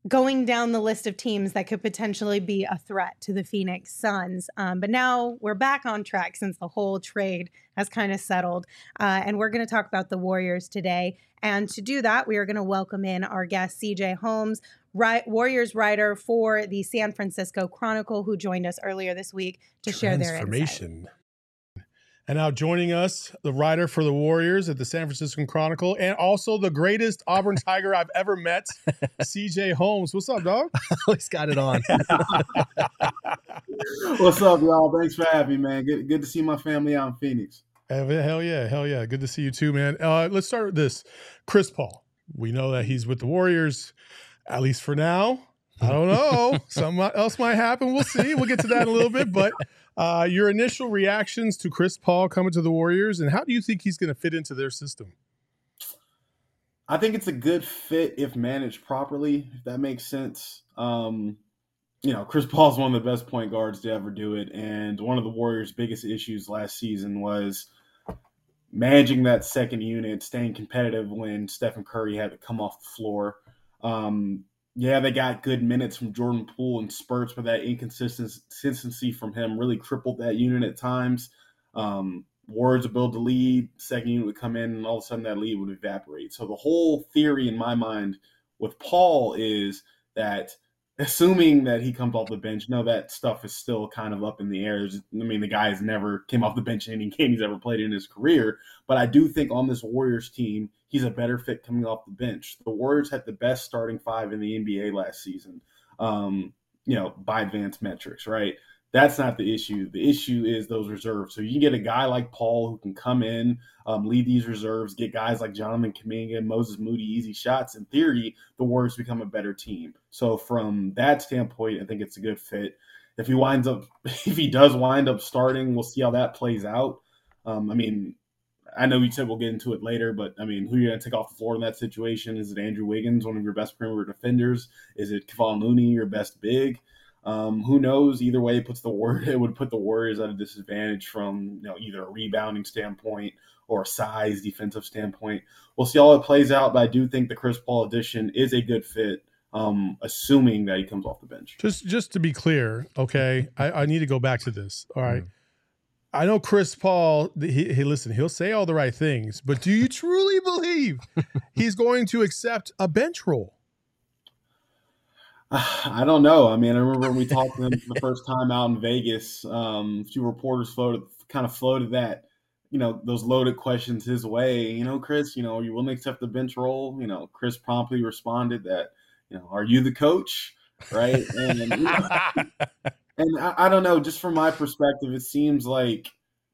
going down the list of teams that could potentially be a threat to the Phoenix Suns. But now we're back on track since the whole trade has kind of settled. And we're going to talk about the Warriors today. And to do that, we are going to welcome in our guest, CJ Holmes, Warriors writer for the San Francisco Chronicle, who joined us earlier this week to share their insight. And now joining us, the writer for the Warriors at the San Francisco Chronicle, and also the greatest Auburn Tiger I've ever met, CJ Holmes. What's up, dog? Always got it on. What's up, y'all? Thanks for having me, man. Good to see my family out in Phoenix. Hell yeah. Good to see you too, man. Let's start with this. Chris Paul. We know that he's with the Warriors, at least for now. I don't know. Something else might happen. We'll see. We'll get to that in a little bit. But your initial reactions to Chris Paul coming to the Warriors, and how do you think he's going to fit into their system? I think it's a good fit if managed properly, if that makes sense. Chris Paul's one of the best point guards to ever do it. And one of the Warriors' biggest issues last season was managing that second unit, staying competitive when Stephen Curry had to come off the floor. They got good minutes from Jordan Poole and spurts, but that inconsistency from him really crippled that unit at times. Warriors would build the lead, second unit would come in, and all of a sudden that lead would evaporate. So the whole theory in my mind with Paul is that, assuming that he comes off the bench, that stuff is still kind of up in the air. The guy has never came off the bench in any game he's ever played in his career. But I do think on this Warriors team, he's a better fit coming off the bench. The Warriors had the best starting five in the NBA last season, by advanced metrics, right? That's not the issue. The issue is those reserves. So you can get a guy like Paul who can come in, lead these reserves, get guys like Jonathan Kuminga, Moses Moody, easy shots. In theory, the Warriors become a better team. So from that standpoint, I think it's a good fit. If he does wind up starting, we'll see how that plays out. I know you said we'll get into it later, but who are you going to take off the floor in that situation? Is it Andrew Wiggins, one of your best perimeter defenders? Is it Kevon Looney, your best big? Who knows? Either way, it would put the Warriors at a disadvantage from either a rebounding standpoint or a size defensive standpoint. We'll see how it plays out, but I do think the Chris Paul addition is a good fit, assuming that he comes off the bench. Just to be clear, okay, I need to go back to this. All right. I know Chris Paul, he'll say all the right things, but do you truly believe he's going to accept a bench role? I don't know. I remember when we talked to him for the first time out in Vegas, a few reporters floated that, those loaded questions his way. Chris, are you willing to accept the bench role? Chris promptly responded that, are you the coach? Right. And, and I don't know, just from my perspective, it seems like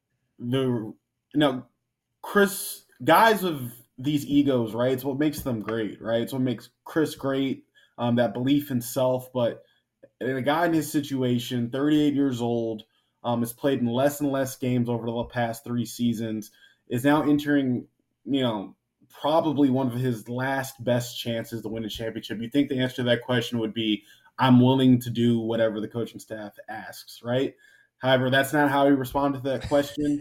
Chris, guys with these egos, right? It's what makes them great, right? It's what makes Chris great. That belief in self, but a guy in his situation, 38 years old, has played in less and less games over the past 3 seasons, is now entering, probably one of his last best chances to win a championship. You think the answer to that question would be, I'm willing to do whatever the coaching staff asks, right? However, that's not how he responded to that question.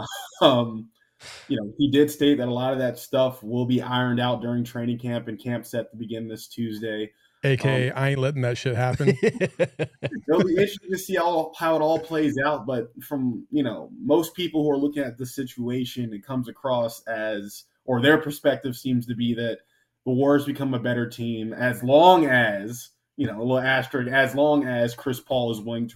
He did state that a lot of that stuff will be ironed out during training camp, and camp set to begin this Tuesday. AKA, I ain't letting that shit happen. It'll be interesting to see how it all plays out. But from, most people who are looking at the situation, it comes across as, or their perspective seems to be that the Warriors become a better team as long as, a little asterisk, as long as Chris Paul is willing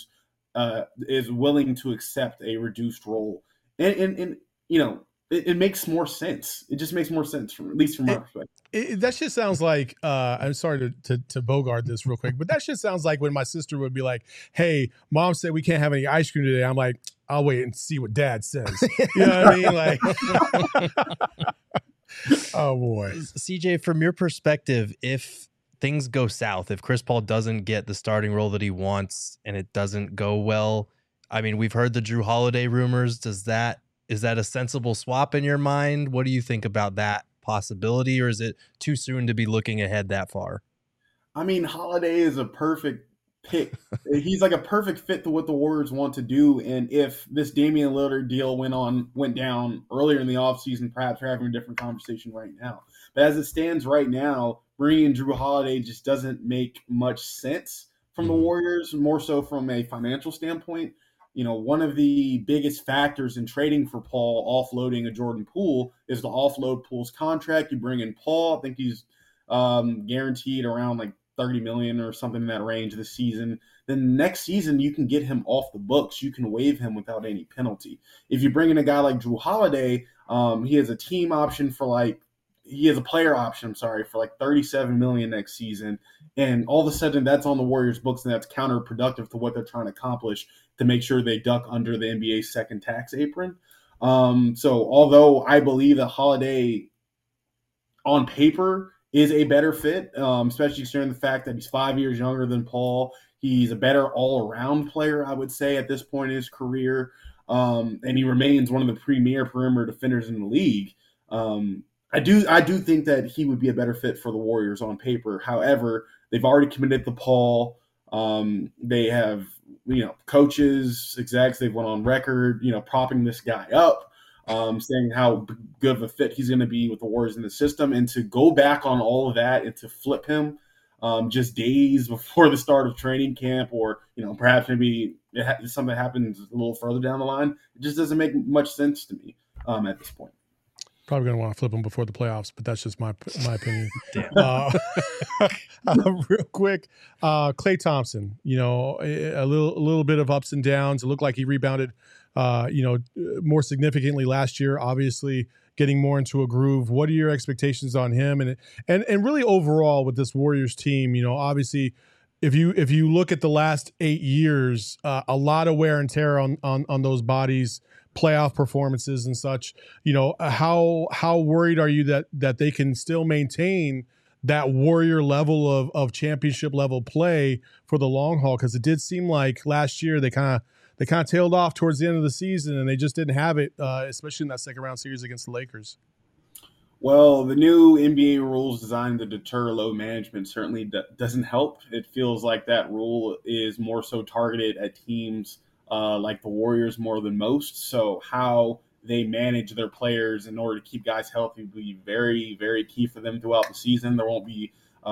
to accept a reduced role. And it makes more sense. It just makes more sense, at least from my perspective. That shit sounds like, I'm sorry to bogart this real quick, but that shit sounds like when my sister would be like, hey, mom said we can't have any ice cream today. I'm like, I'll wait and see what dad says. You know what I mean? Like, oh boy. CJ, from your perspective, if things go south, if Chris Paul doesn't get the starting role that he wants and it doesn't go well, we've heard the Jrue Holiday rumors. Is that a sensible swap in your mind? What do you think about that possibility, or is it too soon to be looking ahead that far? Holiday is a perfect pick. He's like a perfect fit to what the Warriors want to do. And if this Damian Lillard deal went down earlier in the offseason, perhaps we're having a different conversation right now. But as it stands right now, bringing in Jrue Holiday just doesn't make much sense from the Warriors, more so from a financial standpoint. One of the biggest factors in trading for Paul, offloading a Jordan Poole, is to offload Poole's contract. You bring in Paul. I think he's guaranteed around like $30 million or something in that range this season. Then next season, you can get him off the books. You can waive him without any penalty. If you bring in a guy like Jrue Holiday, he has a team option he has a player option, for like $37 million next season. And all of a sudden that's on the Warriors books, and that's counterproductive to what they're trying to accomplish to make sure they duck under the NBA's second tax apron. So although I believe that Holiday on paper is a better fit, especially considering the fact that he's 5 years younger than Paul, he's a better all-around player, I would say, at this point in his career. And he remains one of the premier perimeter defenders in the league. I do think that he would be a better fit for the Warriors on paper. However, they've already committed to Paul. They have, coaches, execs, they've went on record, propping this guy up, saying how good of a fit he's going to be with the Warriors in the system. And to go back on all of that and to flip him just days before the start of training camp, or, perhaps maybe something happens a little further down the line, it just doesn't make much sense to me at this point. Probably going to want to flip him before the playoffs, but that's just my opinion. Real quick, Klay Thompson, a little bit of ups and downs. It looked like he rebounded, more significantly last year, obviously getting more into a groove. What are your expectations on him? And really overall with this Warriors team, obviously if you look at the last 8 years, a lot of wear and tear on those bodies, playoff performances and such. How worried are you that they can still maintain that Warrior level of championship level play for the long haul? Because it did seem like last year they kind of tailed off towards the end of the season, and they just didn't have it, especially in that second round series against the Lakers. Well, the new NBA rules designed to deter load management certainly doesn't help. It feels like that rule is more so targeted at teams like the Warriors more than most. So how they manage their players in order to keep guys healthy will be very, very key for them throughout the season. There won't be a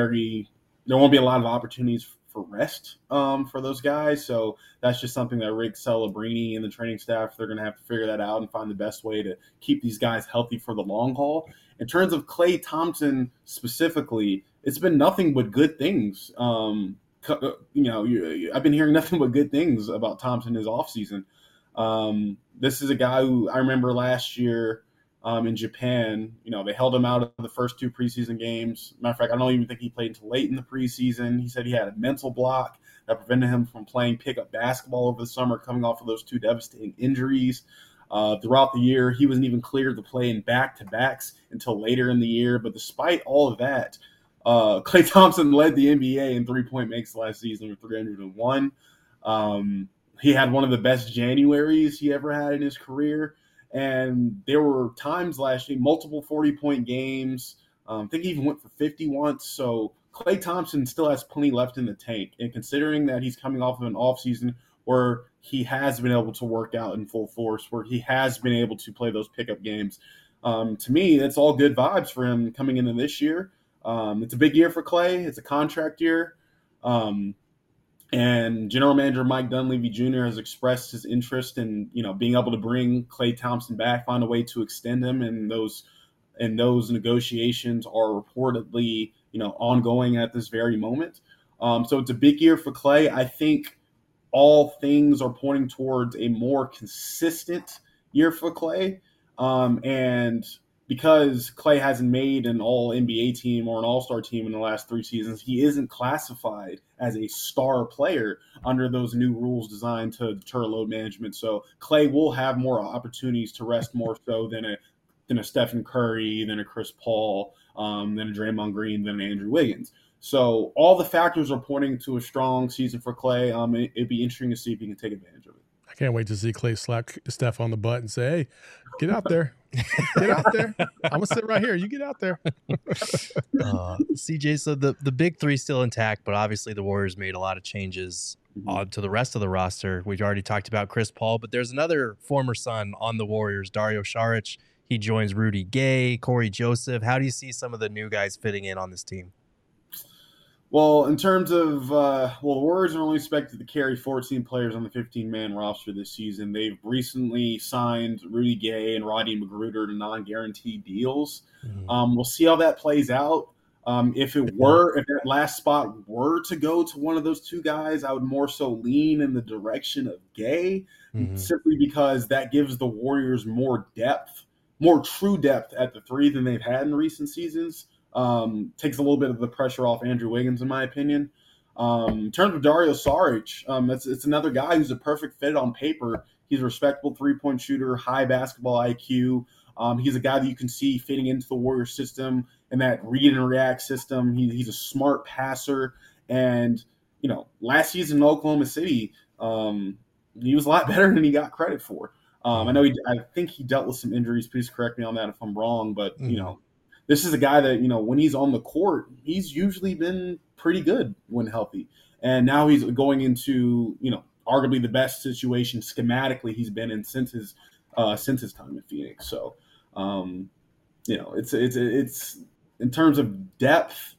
lot of opportunities for rest for those guys. So that's just something that Rick Celebrini and the training staff, they're going to have to figure that out and find the best way to keep these guys healthy for the long haul. In terms of Klay Thompson specifically, it's been nothing but good things. I've been hearing nothing but good things about Thompson this offseason. This is a guy who I remember last year in Japan, they held him out of the first 2 preseason games. Matter of fact, I don't even think he played until late in the preseason. He said he had a mental block that prevented him from playing pickup basketball over the summer, coming off of those 2 devastating injuries. Throughout the year, he wasn't even cleared to play in back-to-backs until later in the year. But despite all of that, Klay Thompson led the NBA in three-point makes last season with 301. He had one of the best Januaries he ever had in his career. And there were times last year, multiple 40-point games. I think he even went for 50 once. So Klay Thompson still has plenty left in the tank. And considering that he's coming off of an offseason where he has been able to work out in full force, where he has been able to play those pickup games, to me, that's all good vibes for him coming into this year. It's a big year for Klay. It's a contract year. And General Manager Mike Dunleavy Jr. has expressed his interest in, being able to bring Klay Thompson back, find a way to extend him. And those negotiations are reportedly, ongoing at this very moment. So it's a big year for Klay. I think all things are pointing towards a more consistent year for Klay. And because Klay hasn't made an all-NBA team or an all-star team in the last 3 seasons, he isn't classified as a star player under those new rules designed to deter load management. So Klay will have more opportunities to rest more so than a Stephen Curry, than a Chris Paul, than a Draymond Green, than an Andrew Wiggins. So all the factors are pointing to a strong season for Klay. It'd be interesting to see if he can take advantage of it. I can't wait to see Klay slap Steph on the butt and say, hey, get out there. Get out there. I'm gonna sit right here. You get out there. CJ, so the big three still intact, but obviously the Warriors made a lot of changes to the rest of the roster. We've already talked about Chris Paul, but there's another former Sun on the Warriors, Dario Saric. He joins Rudy Gay, Corey Joseph. How do you see some of the new guys fitting in on this team? Well, in terms of, the Warriors are only expected to carry 14 players on the 15-man roster this season. They've recently signed Rudy Gay and Rodney McGruder to non-guaranteed deals. We'll see how that plays out. If that last spot were to go to one of those two guys, I would more so lean in the direction of Gay, simply because that gives the Warriors more depth, more true depth at the three than they've had in recent seasons. Takes a little bit of the pressure off Andrew Wiggins, in my opinion. In terms of Dario Saric, it's another guy who's a perfect fit on paper. He's a respectable three-point shooter, high basketball IQ. He's a guy that you can see fitting into the Warriors system and that read and react system. He's a smart passer. And, last season in Oklahoma City, he was a lot better than he got credit for. I think he dealt with some injuries. Please correct me on that if I'm wrong. But, this is a guy that, when he's on the court, he's usually been pretty good when healthy. And now he's going into, arguably the best situation schematically he's been in since his time in Phoenix. So, it's in terms of depth,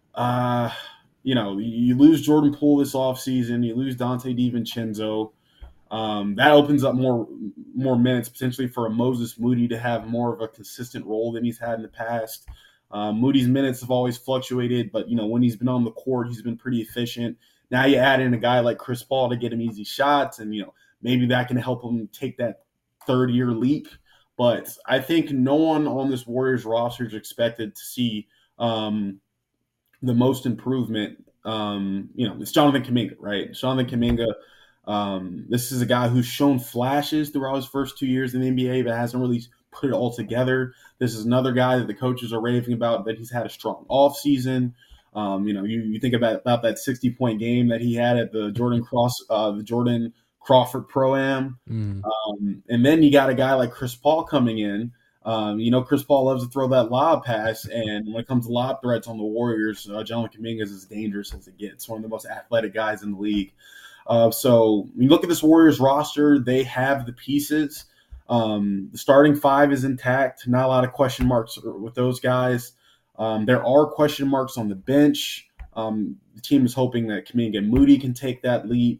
you lose Jordan Poole this offseason, you lose Dante DiVincenzo. That opens up more minutes potentially for a Moses Moody to have more of a consistent role than he's had in the past. Moody's minutes have always fluctuated, but when he's been on the court, he's been pretty efficient. Now you add in a guy like Chris Paul to get him easy shots, and maybe that can help him take that third-year leap. But I think no one on this Warriors roster is expected to see the most improvement. It's Jonathan Kuminga, right? Jonathan Kuminga. This is a guy who's shown flashes throughout his first 2 years in the NBA, but hasn't really put it all together. This is another guy that the coaches are raving about, that he's had a strong offseason. You think about that 60-point game that he had at the Jordan Crawford Pro-Am. And then you got a guy like Chris Paul coming in. Chris Paul loves to throw that lob pass, and when it comes to lob threats on the Warriors, Jonathan Kuminga is as dangerous as it gets. One of the most athletic guys in the league. So when you look at this Warriors roster, they have the pieces. The starting five is intact. Not a lot of question marks with those guys. There are question marks on the bench. The team is hoping that Kuminga and Moody can take that leap.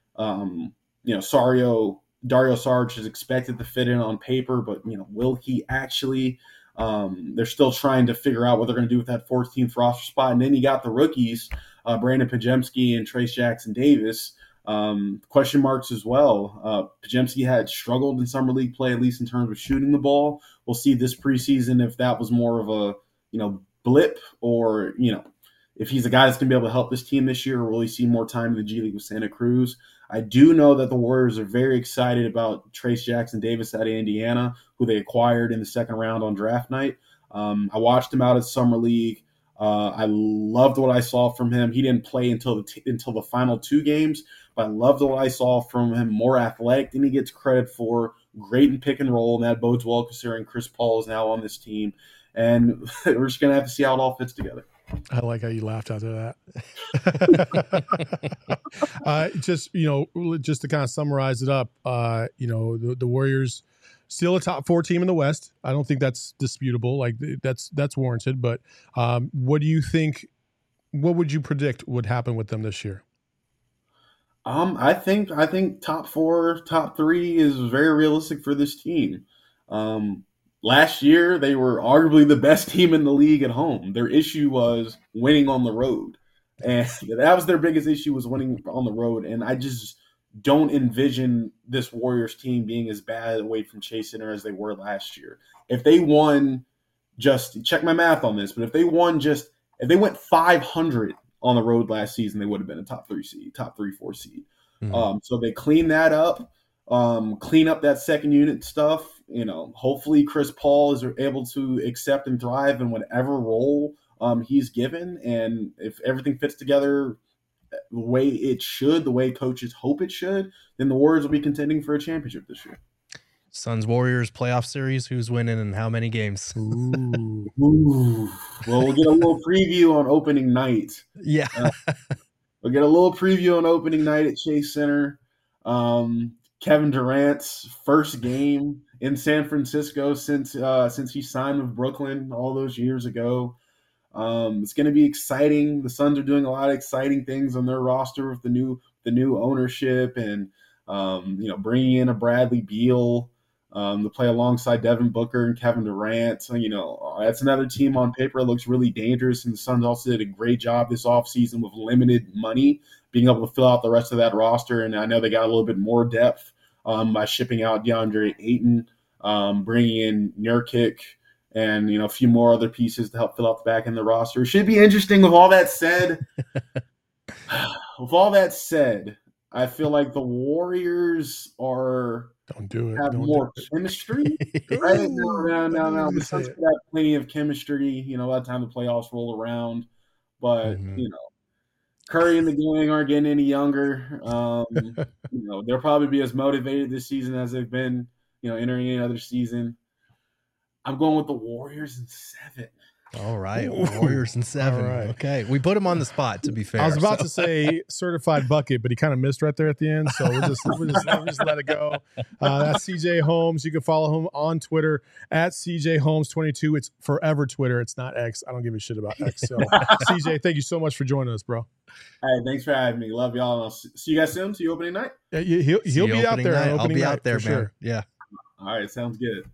Dario Saric is expected to fit in on paper, but will he actually? They're still trying to figure out what they're going to do with that 14th roster spot. And then you got the rookies, Brandon Podziemski and Trayce Jackson-Davis. Question marks as well. Podziemski had struggled in summer league play, at least in terms of shooting the ball. We'll see this preseason if that was more of a blip, or if he's a guy that's going to be able to help this team this year, or will he see more time in the G League with Santa Cruz? I do know that the Warriors are very excited about Trayce Jackson-Davis out of Indiana, who they acquired in the second round on draft night. I watched him out at summer league. I loved what I saw from him. He didn't play until the final two games, but I loved what I saw from him. More athletic than he gets credit for. Great in pick and roll, and that bodes well considering Chris Paul is now on this team. And we're just going to have to see how it all fits together. I like how you laughed after that. Just to kind of summarize it up, the Warriors still a top 4 team in the West. I don't think that's disputable. Like that's warranted. But what do you think? What would you predict would happen with them this year? I think top 4, top 3 is very realistic for this team. Last year, they were arguably the best team in the league at home. Their issue was winning on the road. And that was their biggest issue, was winning on the road. And I just don't envision this Warriors team being as bad away from Chase Center as they were last year. If they won, just check my math on this, but if they went 500 on the road last season, they would have been a top 3 seed, top 3-4 seed. So they clean that up. Clean up that second unit stuff. Hopefully Chris Paul is able to accept and thrive in whatever role he's given. And if everything fits together the way it should, the way coaches hope it should, then the Warriors will be contending for a championship this year. Suns Warriors playoff series. Who's winning and how many games? Ooh. Ooh. Well, we'll get a little preview on opening night. Yeah. We'll get a little preview on opening night at Chase Center. Kevin Durant's first game in San Francisco since he signed with Brooklyn all those years ago. It's going to be exciting. The Suns are doing a lot of exciting things on their roster with the new ownership and bringing in a Bradley Beal to play alongside Devin Booker and Kevin Durant. So, that's another team on paper that looks really dangerous. And the Suns also did a great job this offseason with limited money, being able to fill out the rest of that roster. And I know they got a little bit more depth by shipping out DeAndre Ayton, bringing in Nurkic, and a few more other pieces to help fill out the back end of the roster. It should be interesting. With all that said, I feel like the Warriors have more chemistry. Right? No. The Suns have plenty of chemistry, by the time the playoffs roll around. But, Curry and the gang aren't getting any younger. They'll probably be as motivated this season as they've been, entering any other season. I'm going with the Warriors in 7. All right, Warriors in 7. Right. Okay, we put him on the spot. To be fair, I was about to say certified bucket, but he kind of missed right there at the end, so we'll just let it go. That's CJ Holmes. You can follow him on Twitter at CJ Holmes 22. It's forever Twitter. It's not X. I don't give a shit about X. So CJ, thank you so much for joining us, bro. Hey, thanks for having me. Love y'all. And I'll see you guys soon. See you opening night. Yeah, he'll be out there. I'll be out there, man. Sure. Yeah. All right, sounds good.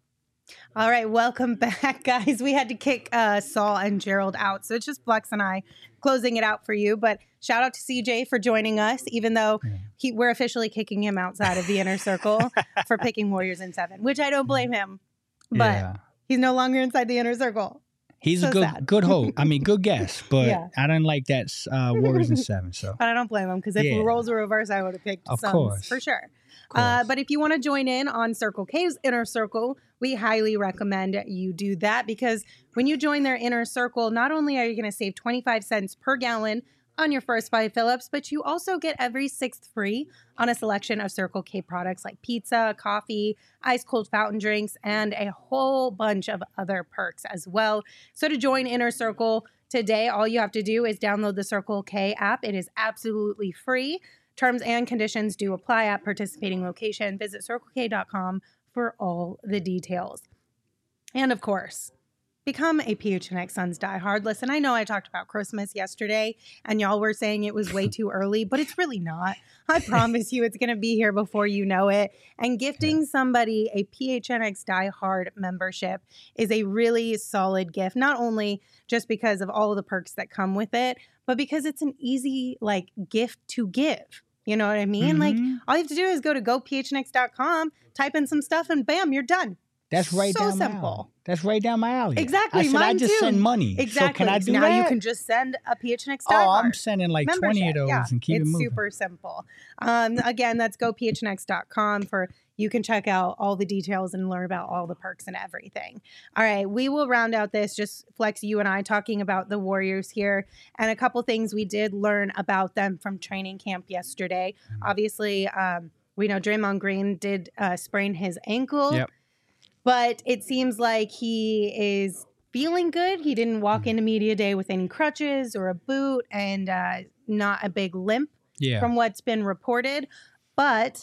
All right, welcome back, guys. We had to kick Saul and Gerald out, so it's just Flex and I closing it out for you. But shout out to CJ for joining us, even though we're officially kicking him outside of the inner circle for picking Warriors in 7, which I don't blame him. But he's no longer inside the inner circle. He's so a good hope. I mean, good guess, but I didn't like that Warriors in 7. So, but I don't blame him because if the roles were reversed, I would have picked Suns for sure. But if you want to join in on Circle K's inner circle, we highly recommend you do that, because when you join their inner circle, not only are you going to save 25 cents per gallon on your first 5 fill-ups, but you also get every 6th free on a selection of Circle K products like pizza, coffee, ice cold fountain drinks, and a whole bunch of other perks as well. So to join Inner Circle today, all you have to do is download the Circle K app. It is absolutely free. Terms and conditions do apply at participating location. Visit CircleK.com for all the details. And of course, become a PHNX Suns diehard. Listen, I know I talked about Christmas yesterday and y'all were saying it was way too early, but it's really not. I promise you it's going to be here before you know it. And gifting somebody a PHNX diehard membership is a really solid gift, not only just because of all of the perks that come with it, but because it's an easy gift to give. You know what I mean? Mm-hmm. All you have to do is go to gophnx.com, type in some stuff, and bam, you're done. That's right so down my simple. alley. That's right down my alley. Exactly. I said mine I just too. send money. Exactly. So can I do now that? You can just send a PHNX Oh, diehard I'm sending like membership. 20 of those and keep it moving. It's super simple. Again, that's gophnx.com for you can check out all the details and learn about all the perks and everything. All right, we will round out this, just Flex, you and I talking about the Warriors here and a couple things we did learn about them from training camp yesterday. Obviously, we know Draymond Green did sprain his ankle. Yep. But it seems like he is feeling good. He didn't walk into media day with any crutches or a boot and not a big limp from what's been reported. But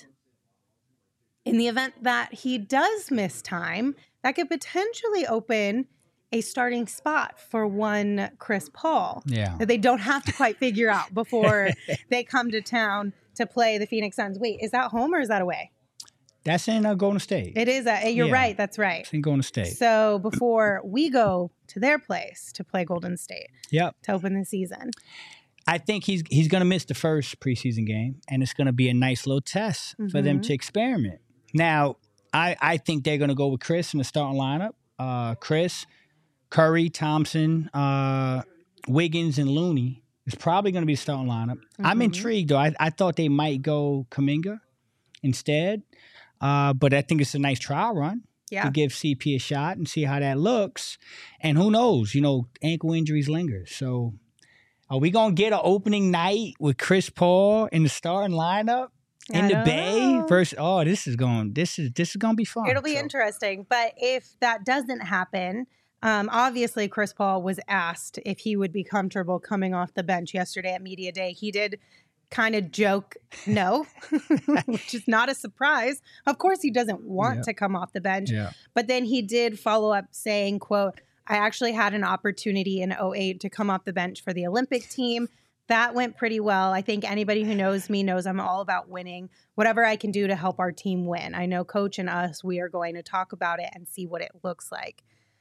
in the event that he does miss time, that could potentially open a starting spot for one Chris Paul that they don't have to quite figure out before they come to town to play the Phoenix Suns. Wait, is that home or is that away? That's in Golden State. It is. You're right. That's right. It's in Golden State. So before we go to their place to play Golden State to open the season. I think he's going to miss the first preseason game, and it's going to be a nice little test for them to experiment. Now, I think they're going to go with Chris in the starting lineup. Chris, Curry, Thompson, Wiggins, and Looney is probably going to be the starting lineup. I'm intrigued, though. I thought they might go Kuminga instead. But I think it's a nice trial run to give CP a shot and see how that looks. And who knows, ankle injuries linger. So are we going to get an opening night with Chris Paul in the starting lineup in the Bay versus this is gonna be fun. It'll be interesting. But if that doesn't happen, obviously Chris Paul was asked if he would be comfortable coming off the bench yesterday at Media Day. He did kind of joke no, which is not a surprise. Of course he doesn't want to come off the bench. Yeah. But then he did follow up saying, quote, I actually had an opportunity in 2008 to come off the bench for the Olympic team. That went pretty well. I think anybody who knows me knows I'm all about winning. Whatever I can do to help our team win. I know Coach and us, we are going to talk about it and see what it looks like.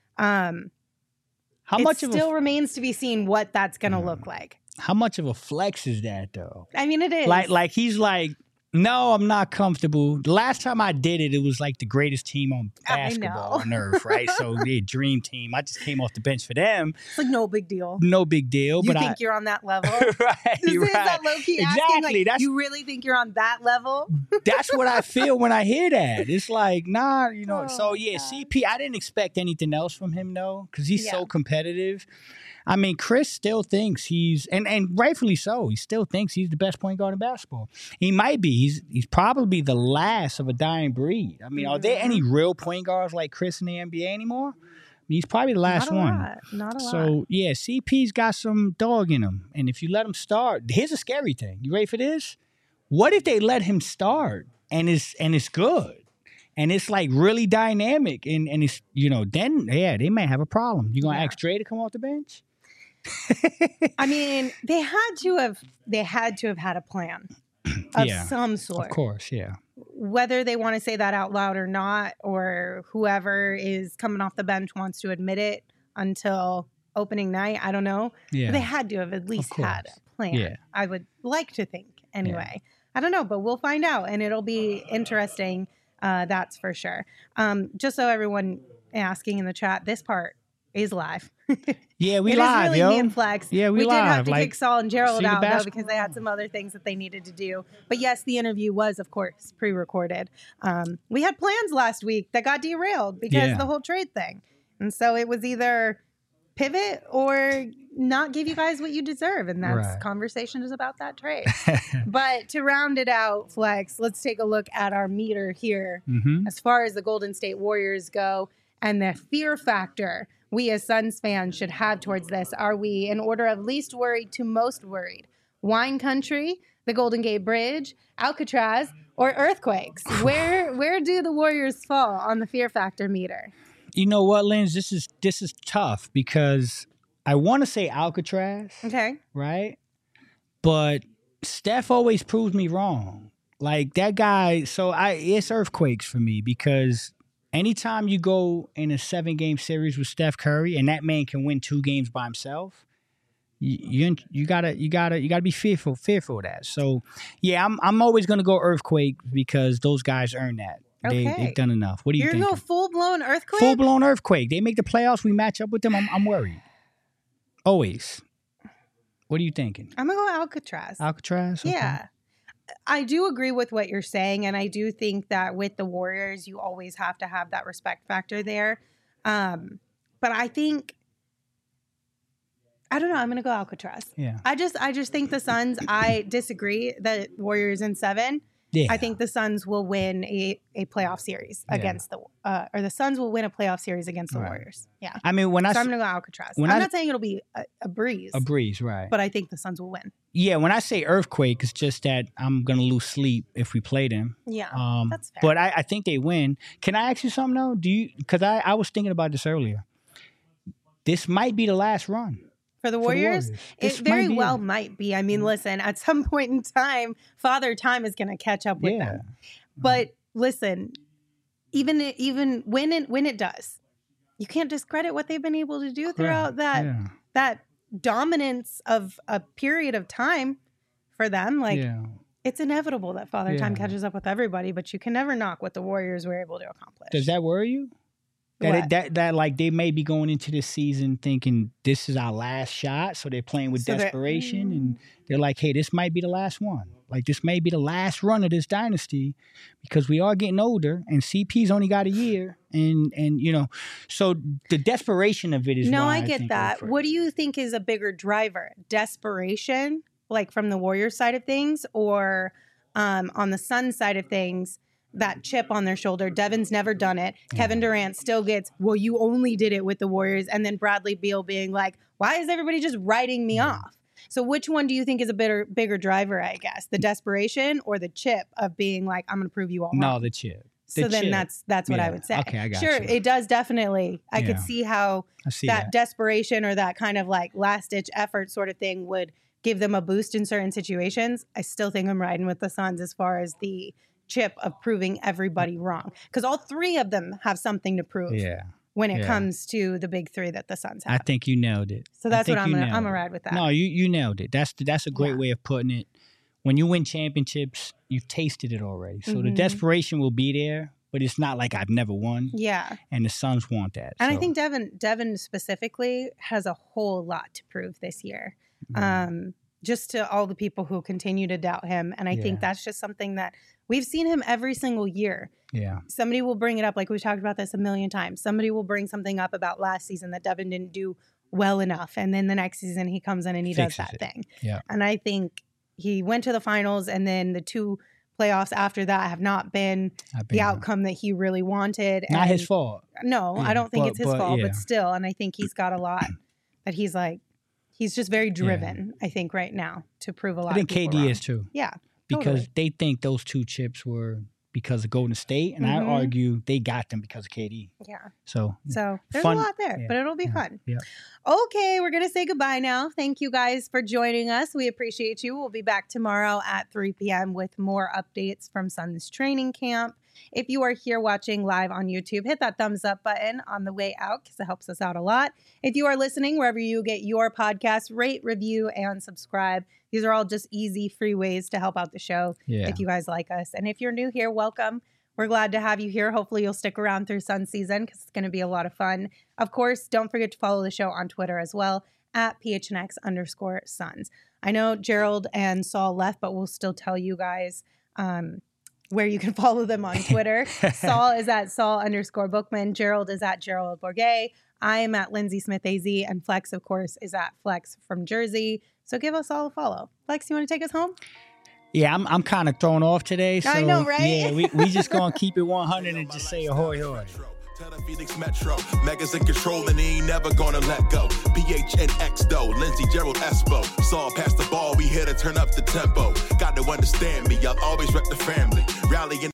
Still remains to be seen what that's going to look like. How much of a flex is that, though? I mean, it is. Like he's like, no, I'm not comfortable. The last time I did it, it was like the greatest team on basketball on earth, right? So the dream team. I just came off the bench for them. It's like no big deal. No big deal. You think you're on that level? Right. Is that low-key Exactly. Asking, you really think you're on that level? That's what I feel when I hear that. It's like, nah, CP, I didn't expect anything else from him, though, because he's so competitive. I mean, Chris still thinks and rightfully so, he still thinks he's the best point guard in basketball. He might be. He's probably the last of a dying breed. I mean, are there any real point guards like Chris in the NBA anymore? I mean, he's probably the last one. Not a lot. So, yeah, CP's got some dog in him. And if you let him start, here's a scary thing. You ready for this? What if they let him start and it's good? And it's like really dynamic and it's, then, they may have a problem. You going to ask Dre to come off the bench? I mean, they had to have had a plan of some sort. Of course, yeah. Whether they want to say that out loud or not, or whoever is coming off the bench wants to admit it until opening night, I don't know. Yeah. But they had to have at least had a plan. Yeah. I would like to think anyway. Yeah. I don't know, but we'll find out, and it'll be interesting. That's for sure. Just so everyone asking in the chat, this part is live. Yeah, we it live, is really yo. me and Flex. Yeah, we did live. have to kick Saul and Gerald out, though, because they had some other things that they needed to do. But yes, the interview was, of course, pre-recorded. We had plans last week that got derailed because of the whole trade thing. And so it was either pivot or not give you guys what you deserve. And that's conversation is about that trade. But to round it out, Flex, let's take a look at our meter here. As far as the Golden State Warriors go and the fear factor we as Suns fans should have towards this. Are we in order of least worried to most worried? Wine Country, the Golden Gate Bridge, Alcatraz, or earthquakes? Where do the Warriors fall on the fear factor meter? You know what, Linz? This is tough because I want to say Alcatraz. Okay. Right? But Steph always proves me wrong. Like that guy, it's earthquakes for me because anytime you go in a 7-game series with Steph Curry and that man can win 2 games by himself, you gotta be fearful of that. So yeah, I'm always gonna go earthquake because those guys earn that. Okay. They've done enough. What do you think? You're gonna go full-blown earthquake? Full-blown earthquake. They make the playoffs. We match up with them. I'm worried. Always. What are you thinking? I'm gonna go Alcatraz. Alcatraz? Okay. Yeah. I do agree with what you're saying, and I do think that with the Warriors, you always have to have that respect factor there. But I think, I don't know, I'm going to go Alcatraz. Yeah. I just think the Suns, I disagree that Warriors in 7. Yeah. I think the Suns will win a playoff series against the Suns will win a playoff series against the Warriors. Yeah. I mean, I'm going to go Alcatraz. I'm not saying it'll be a breeze. A breeze, right. But I think the Suns will win. Yeah, when I say earthquake, it's just that I'm going to lose sleep if we play them. Yeah, that's fair. But I think they win. Can I ask you something, though? Because I was thinking about this earlier. This might be the last run. For the Warriors? It very well might be. I mean, listen, at some point in time, Father Time is going to catch up with them. But listen, even when it does, you can't discredit what they've been able to do throughout that dominance of a period of time for them. Like, it's inevitable that Father Time catches up with everybody, but you can never knock what the Warriors were able to accomplish. Does that worry you? That like they may be going into this season thinking this is our last shot, so they're playing with desperation, and they're like, hey, this might be the last one. Like this may be the last run of this dynasty because we are getting older, and CP's only got a year, and so the desperation of it is. No, why I get that. What do you think is a bigger driver? Desperation, like from the Warriors side of things, or On the Suns side of things, that chip on their shoulder, Devin's never done it. Kevin Durant still gets, well, you only did it with the Warriors. And then Bradley Beal being like, why is everybody just writing me off? So which one do you think is a bigger driver, I guess? The desperation or the chip of being like, I'm going to prove you all wrong? No, the chip. So then that's what I would say. Okay, I got you. Sure, it does definitely. I could see how that desperation or that kind of like last-ditch effort sort of thing would give them a boost in certain situations. I still think I'm riding with the Suns as far as the chip of proving everybody wrong. Because all three of them have something to prove when it comes to the big three that the Suns have. I think you nailed it. So that's what I'm gonna ride with that. No, you nailed it. That's a great way of putting it. When you win championships, you've tasted it already. So the desperation will be there, but it's not like I've never won. Yeah. And the Suns want that. And I think Devin specifically has a whole lot to prove this year. Just to all the people who continue to doubt him. And I think that's just something that we've seen him every single year. Yeah. Somebody will bring it up, like we've talked about this a million times. Somebody will bring something up about last season that Devin didn't do well enough. And then the next season he comes in and he does that thing. Yeah. And I think he went to the finals, and then the two playoffs after that have not been the outcome that he really wanted. Not his fault. No, I don't think it's his fault, but still. And I think he's got a lot that he's like, he's just very driven, I think, right now to prove a lot. I think KD is too. Yeah. Because they think those two chips were because of Golden State, and I argue they got them because of KD. Yeah. So there's a lot there, but it'll be fun. Yeah. Okay, we're going to say goodbye now. Thank you guys for joining us. We appreciate you. We'll be back tomorrow at 3 p.m. with more updates from Suns training camp. If you are here watching live on YouTube, hit that thumbs up button on the way out because it helps us out a lot. If you are listening wherever you get your podcasts, rate, review, and subscribe. These are all just easy, free ways to help out the show if you guys like us. And if you're new here, welcome. We're glad to have you here. Hopefully you'll stick around through Sun season because it's going to be a lot of fun. Of course, don't forget to follow the show on Twitter as well at PHNX_Suns. I know Gerald and Saul left, but we'll still tell you guys where you can follow them on Twitter. Saul is at Saul_Bookman. Gerald is at Gerald Bourget. I am at Lindsay Smith AZ, and Flex, of course, is at Flex from Jersey. So give us all a follow. Flex, you want to take us home? Yeah, I'm kind of thrown off today. So, I know, right? Yeah, we just going to keep it 100 and just say ahoy, hoy. Tell the Phoenix Metro, Megas in control and he ain't never gonna let go. PHNX though, Lindsey, Gerald, Espo. Saw past the ball, we here to turn up the tempo. Got to understand me, I'll always rep the family. Rallying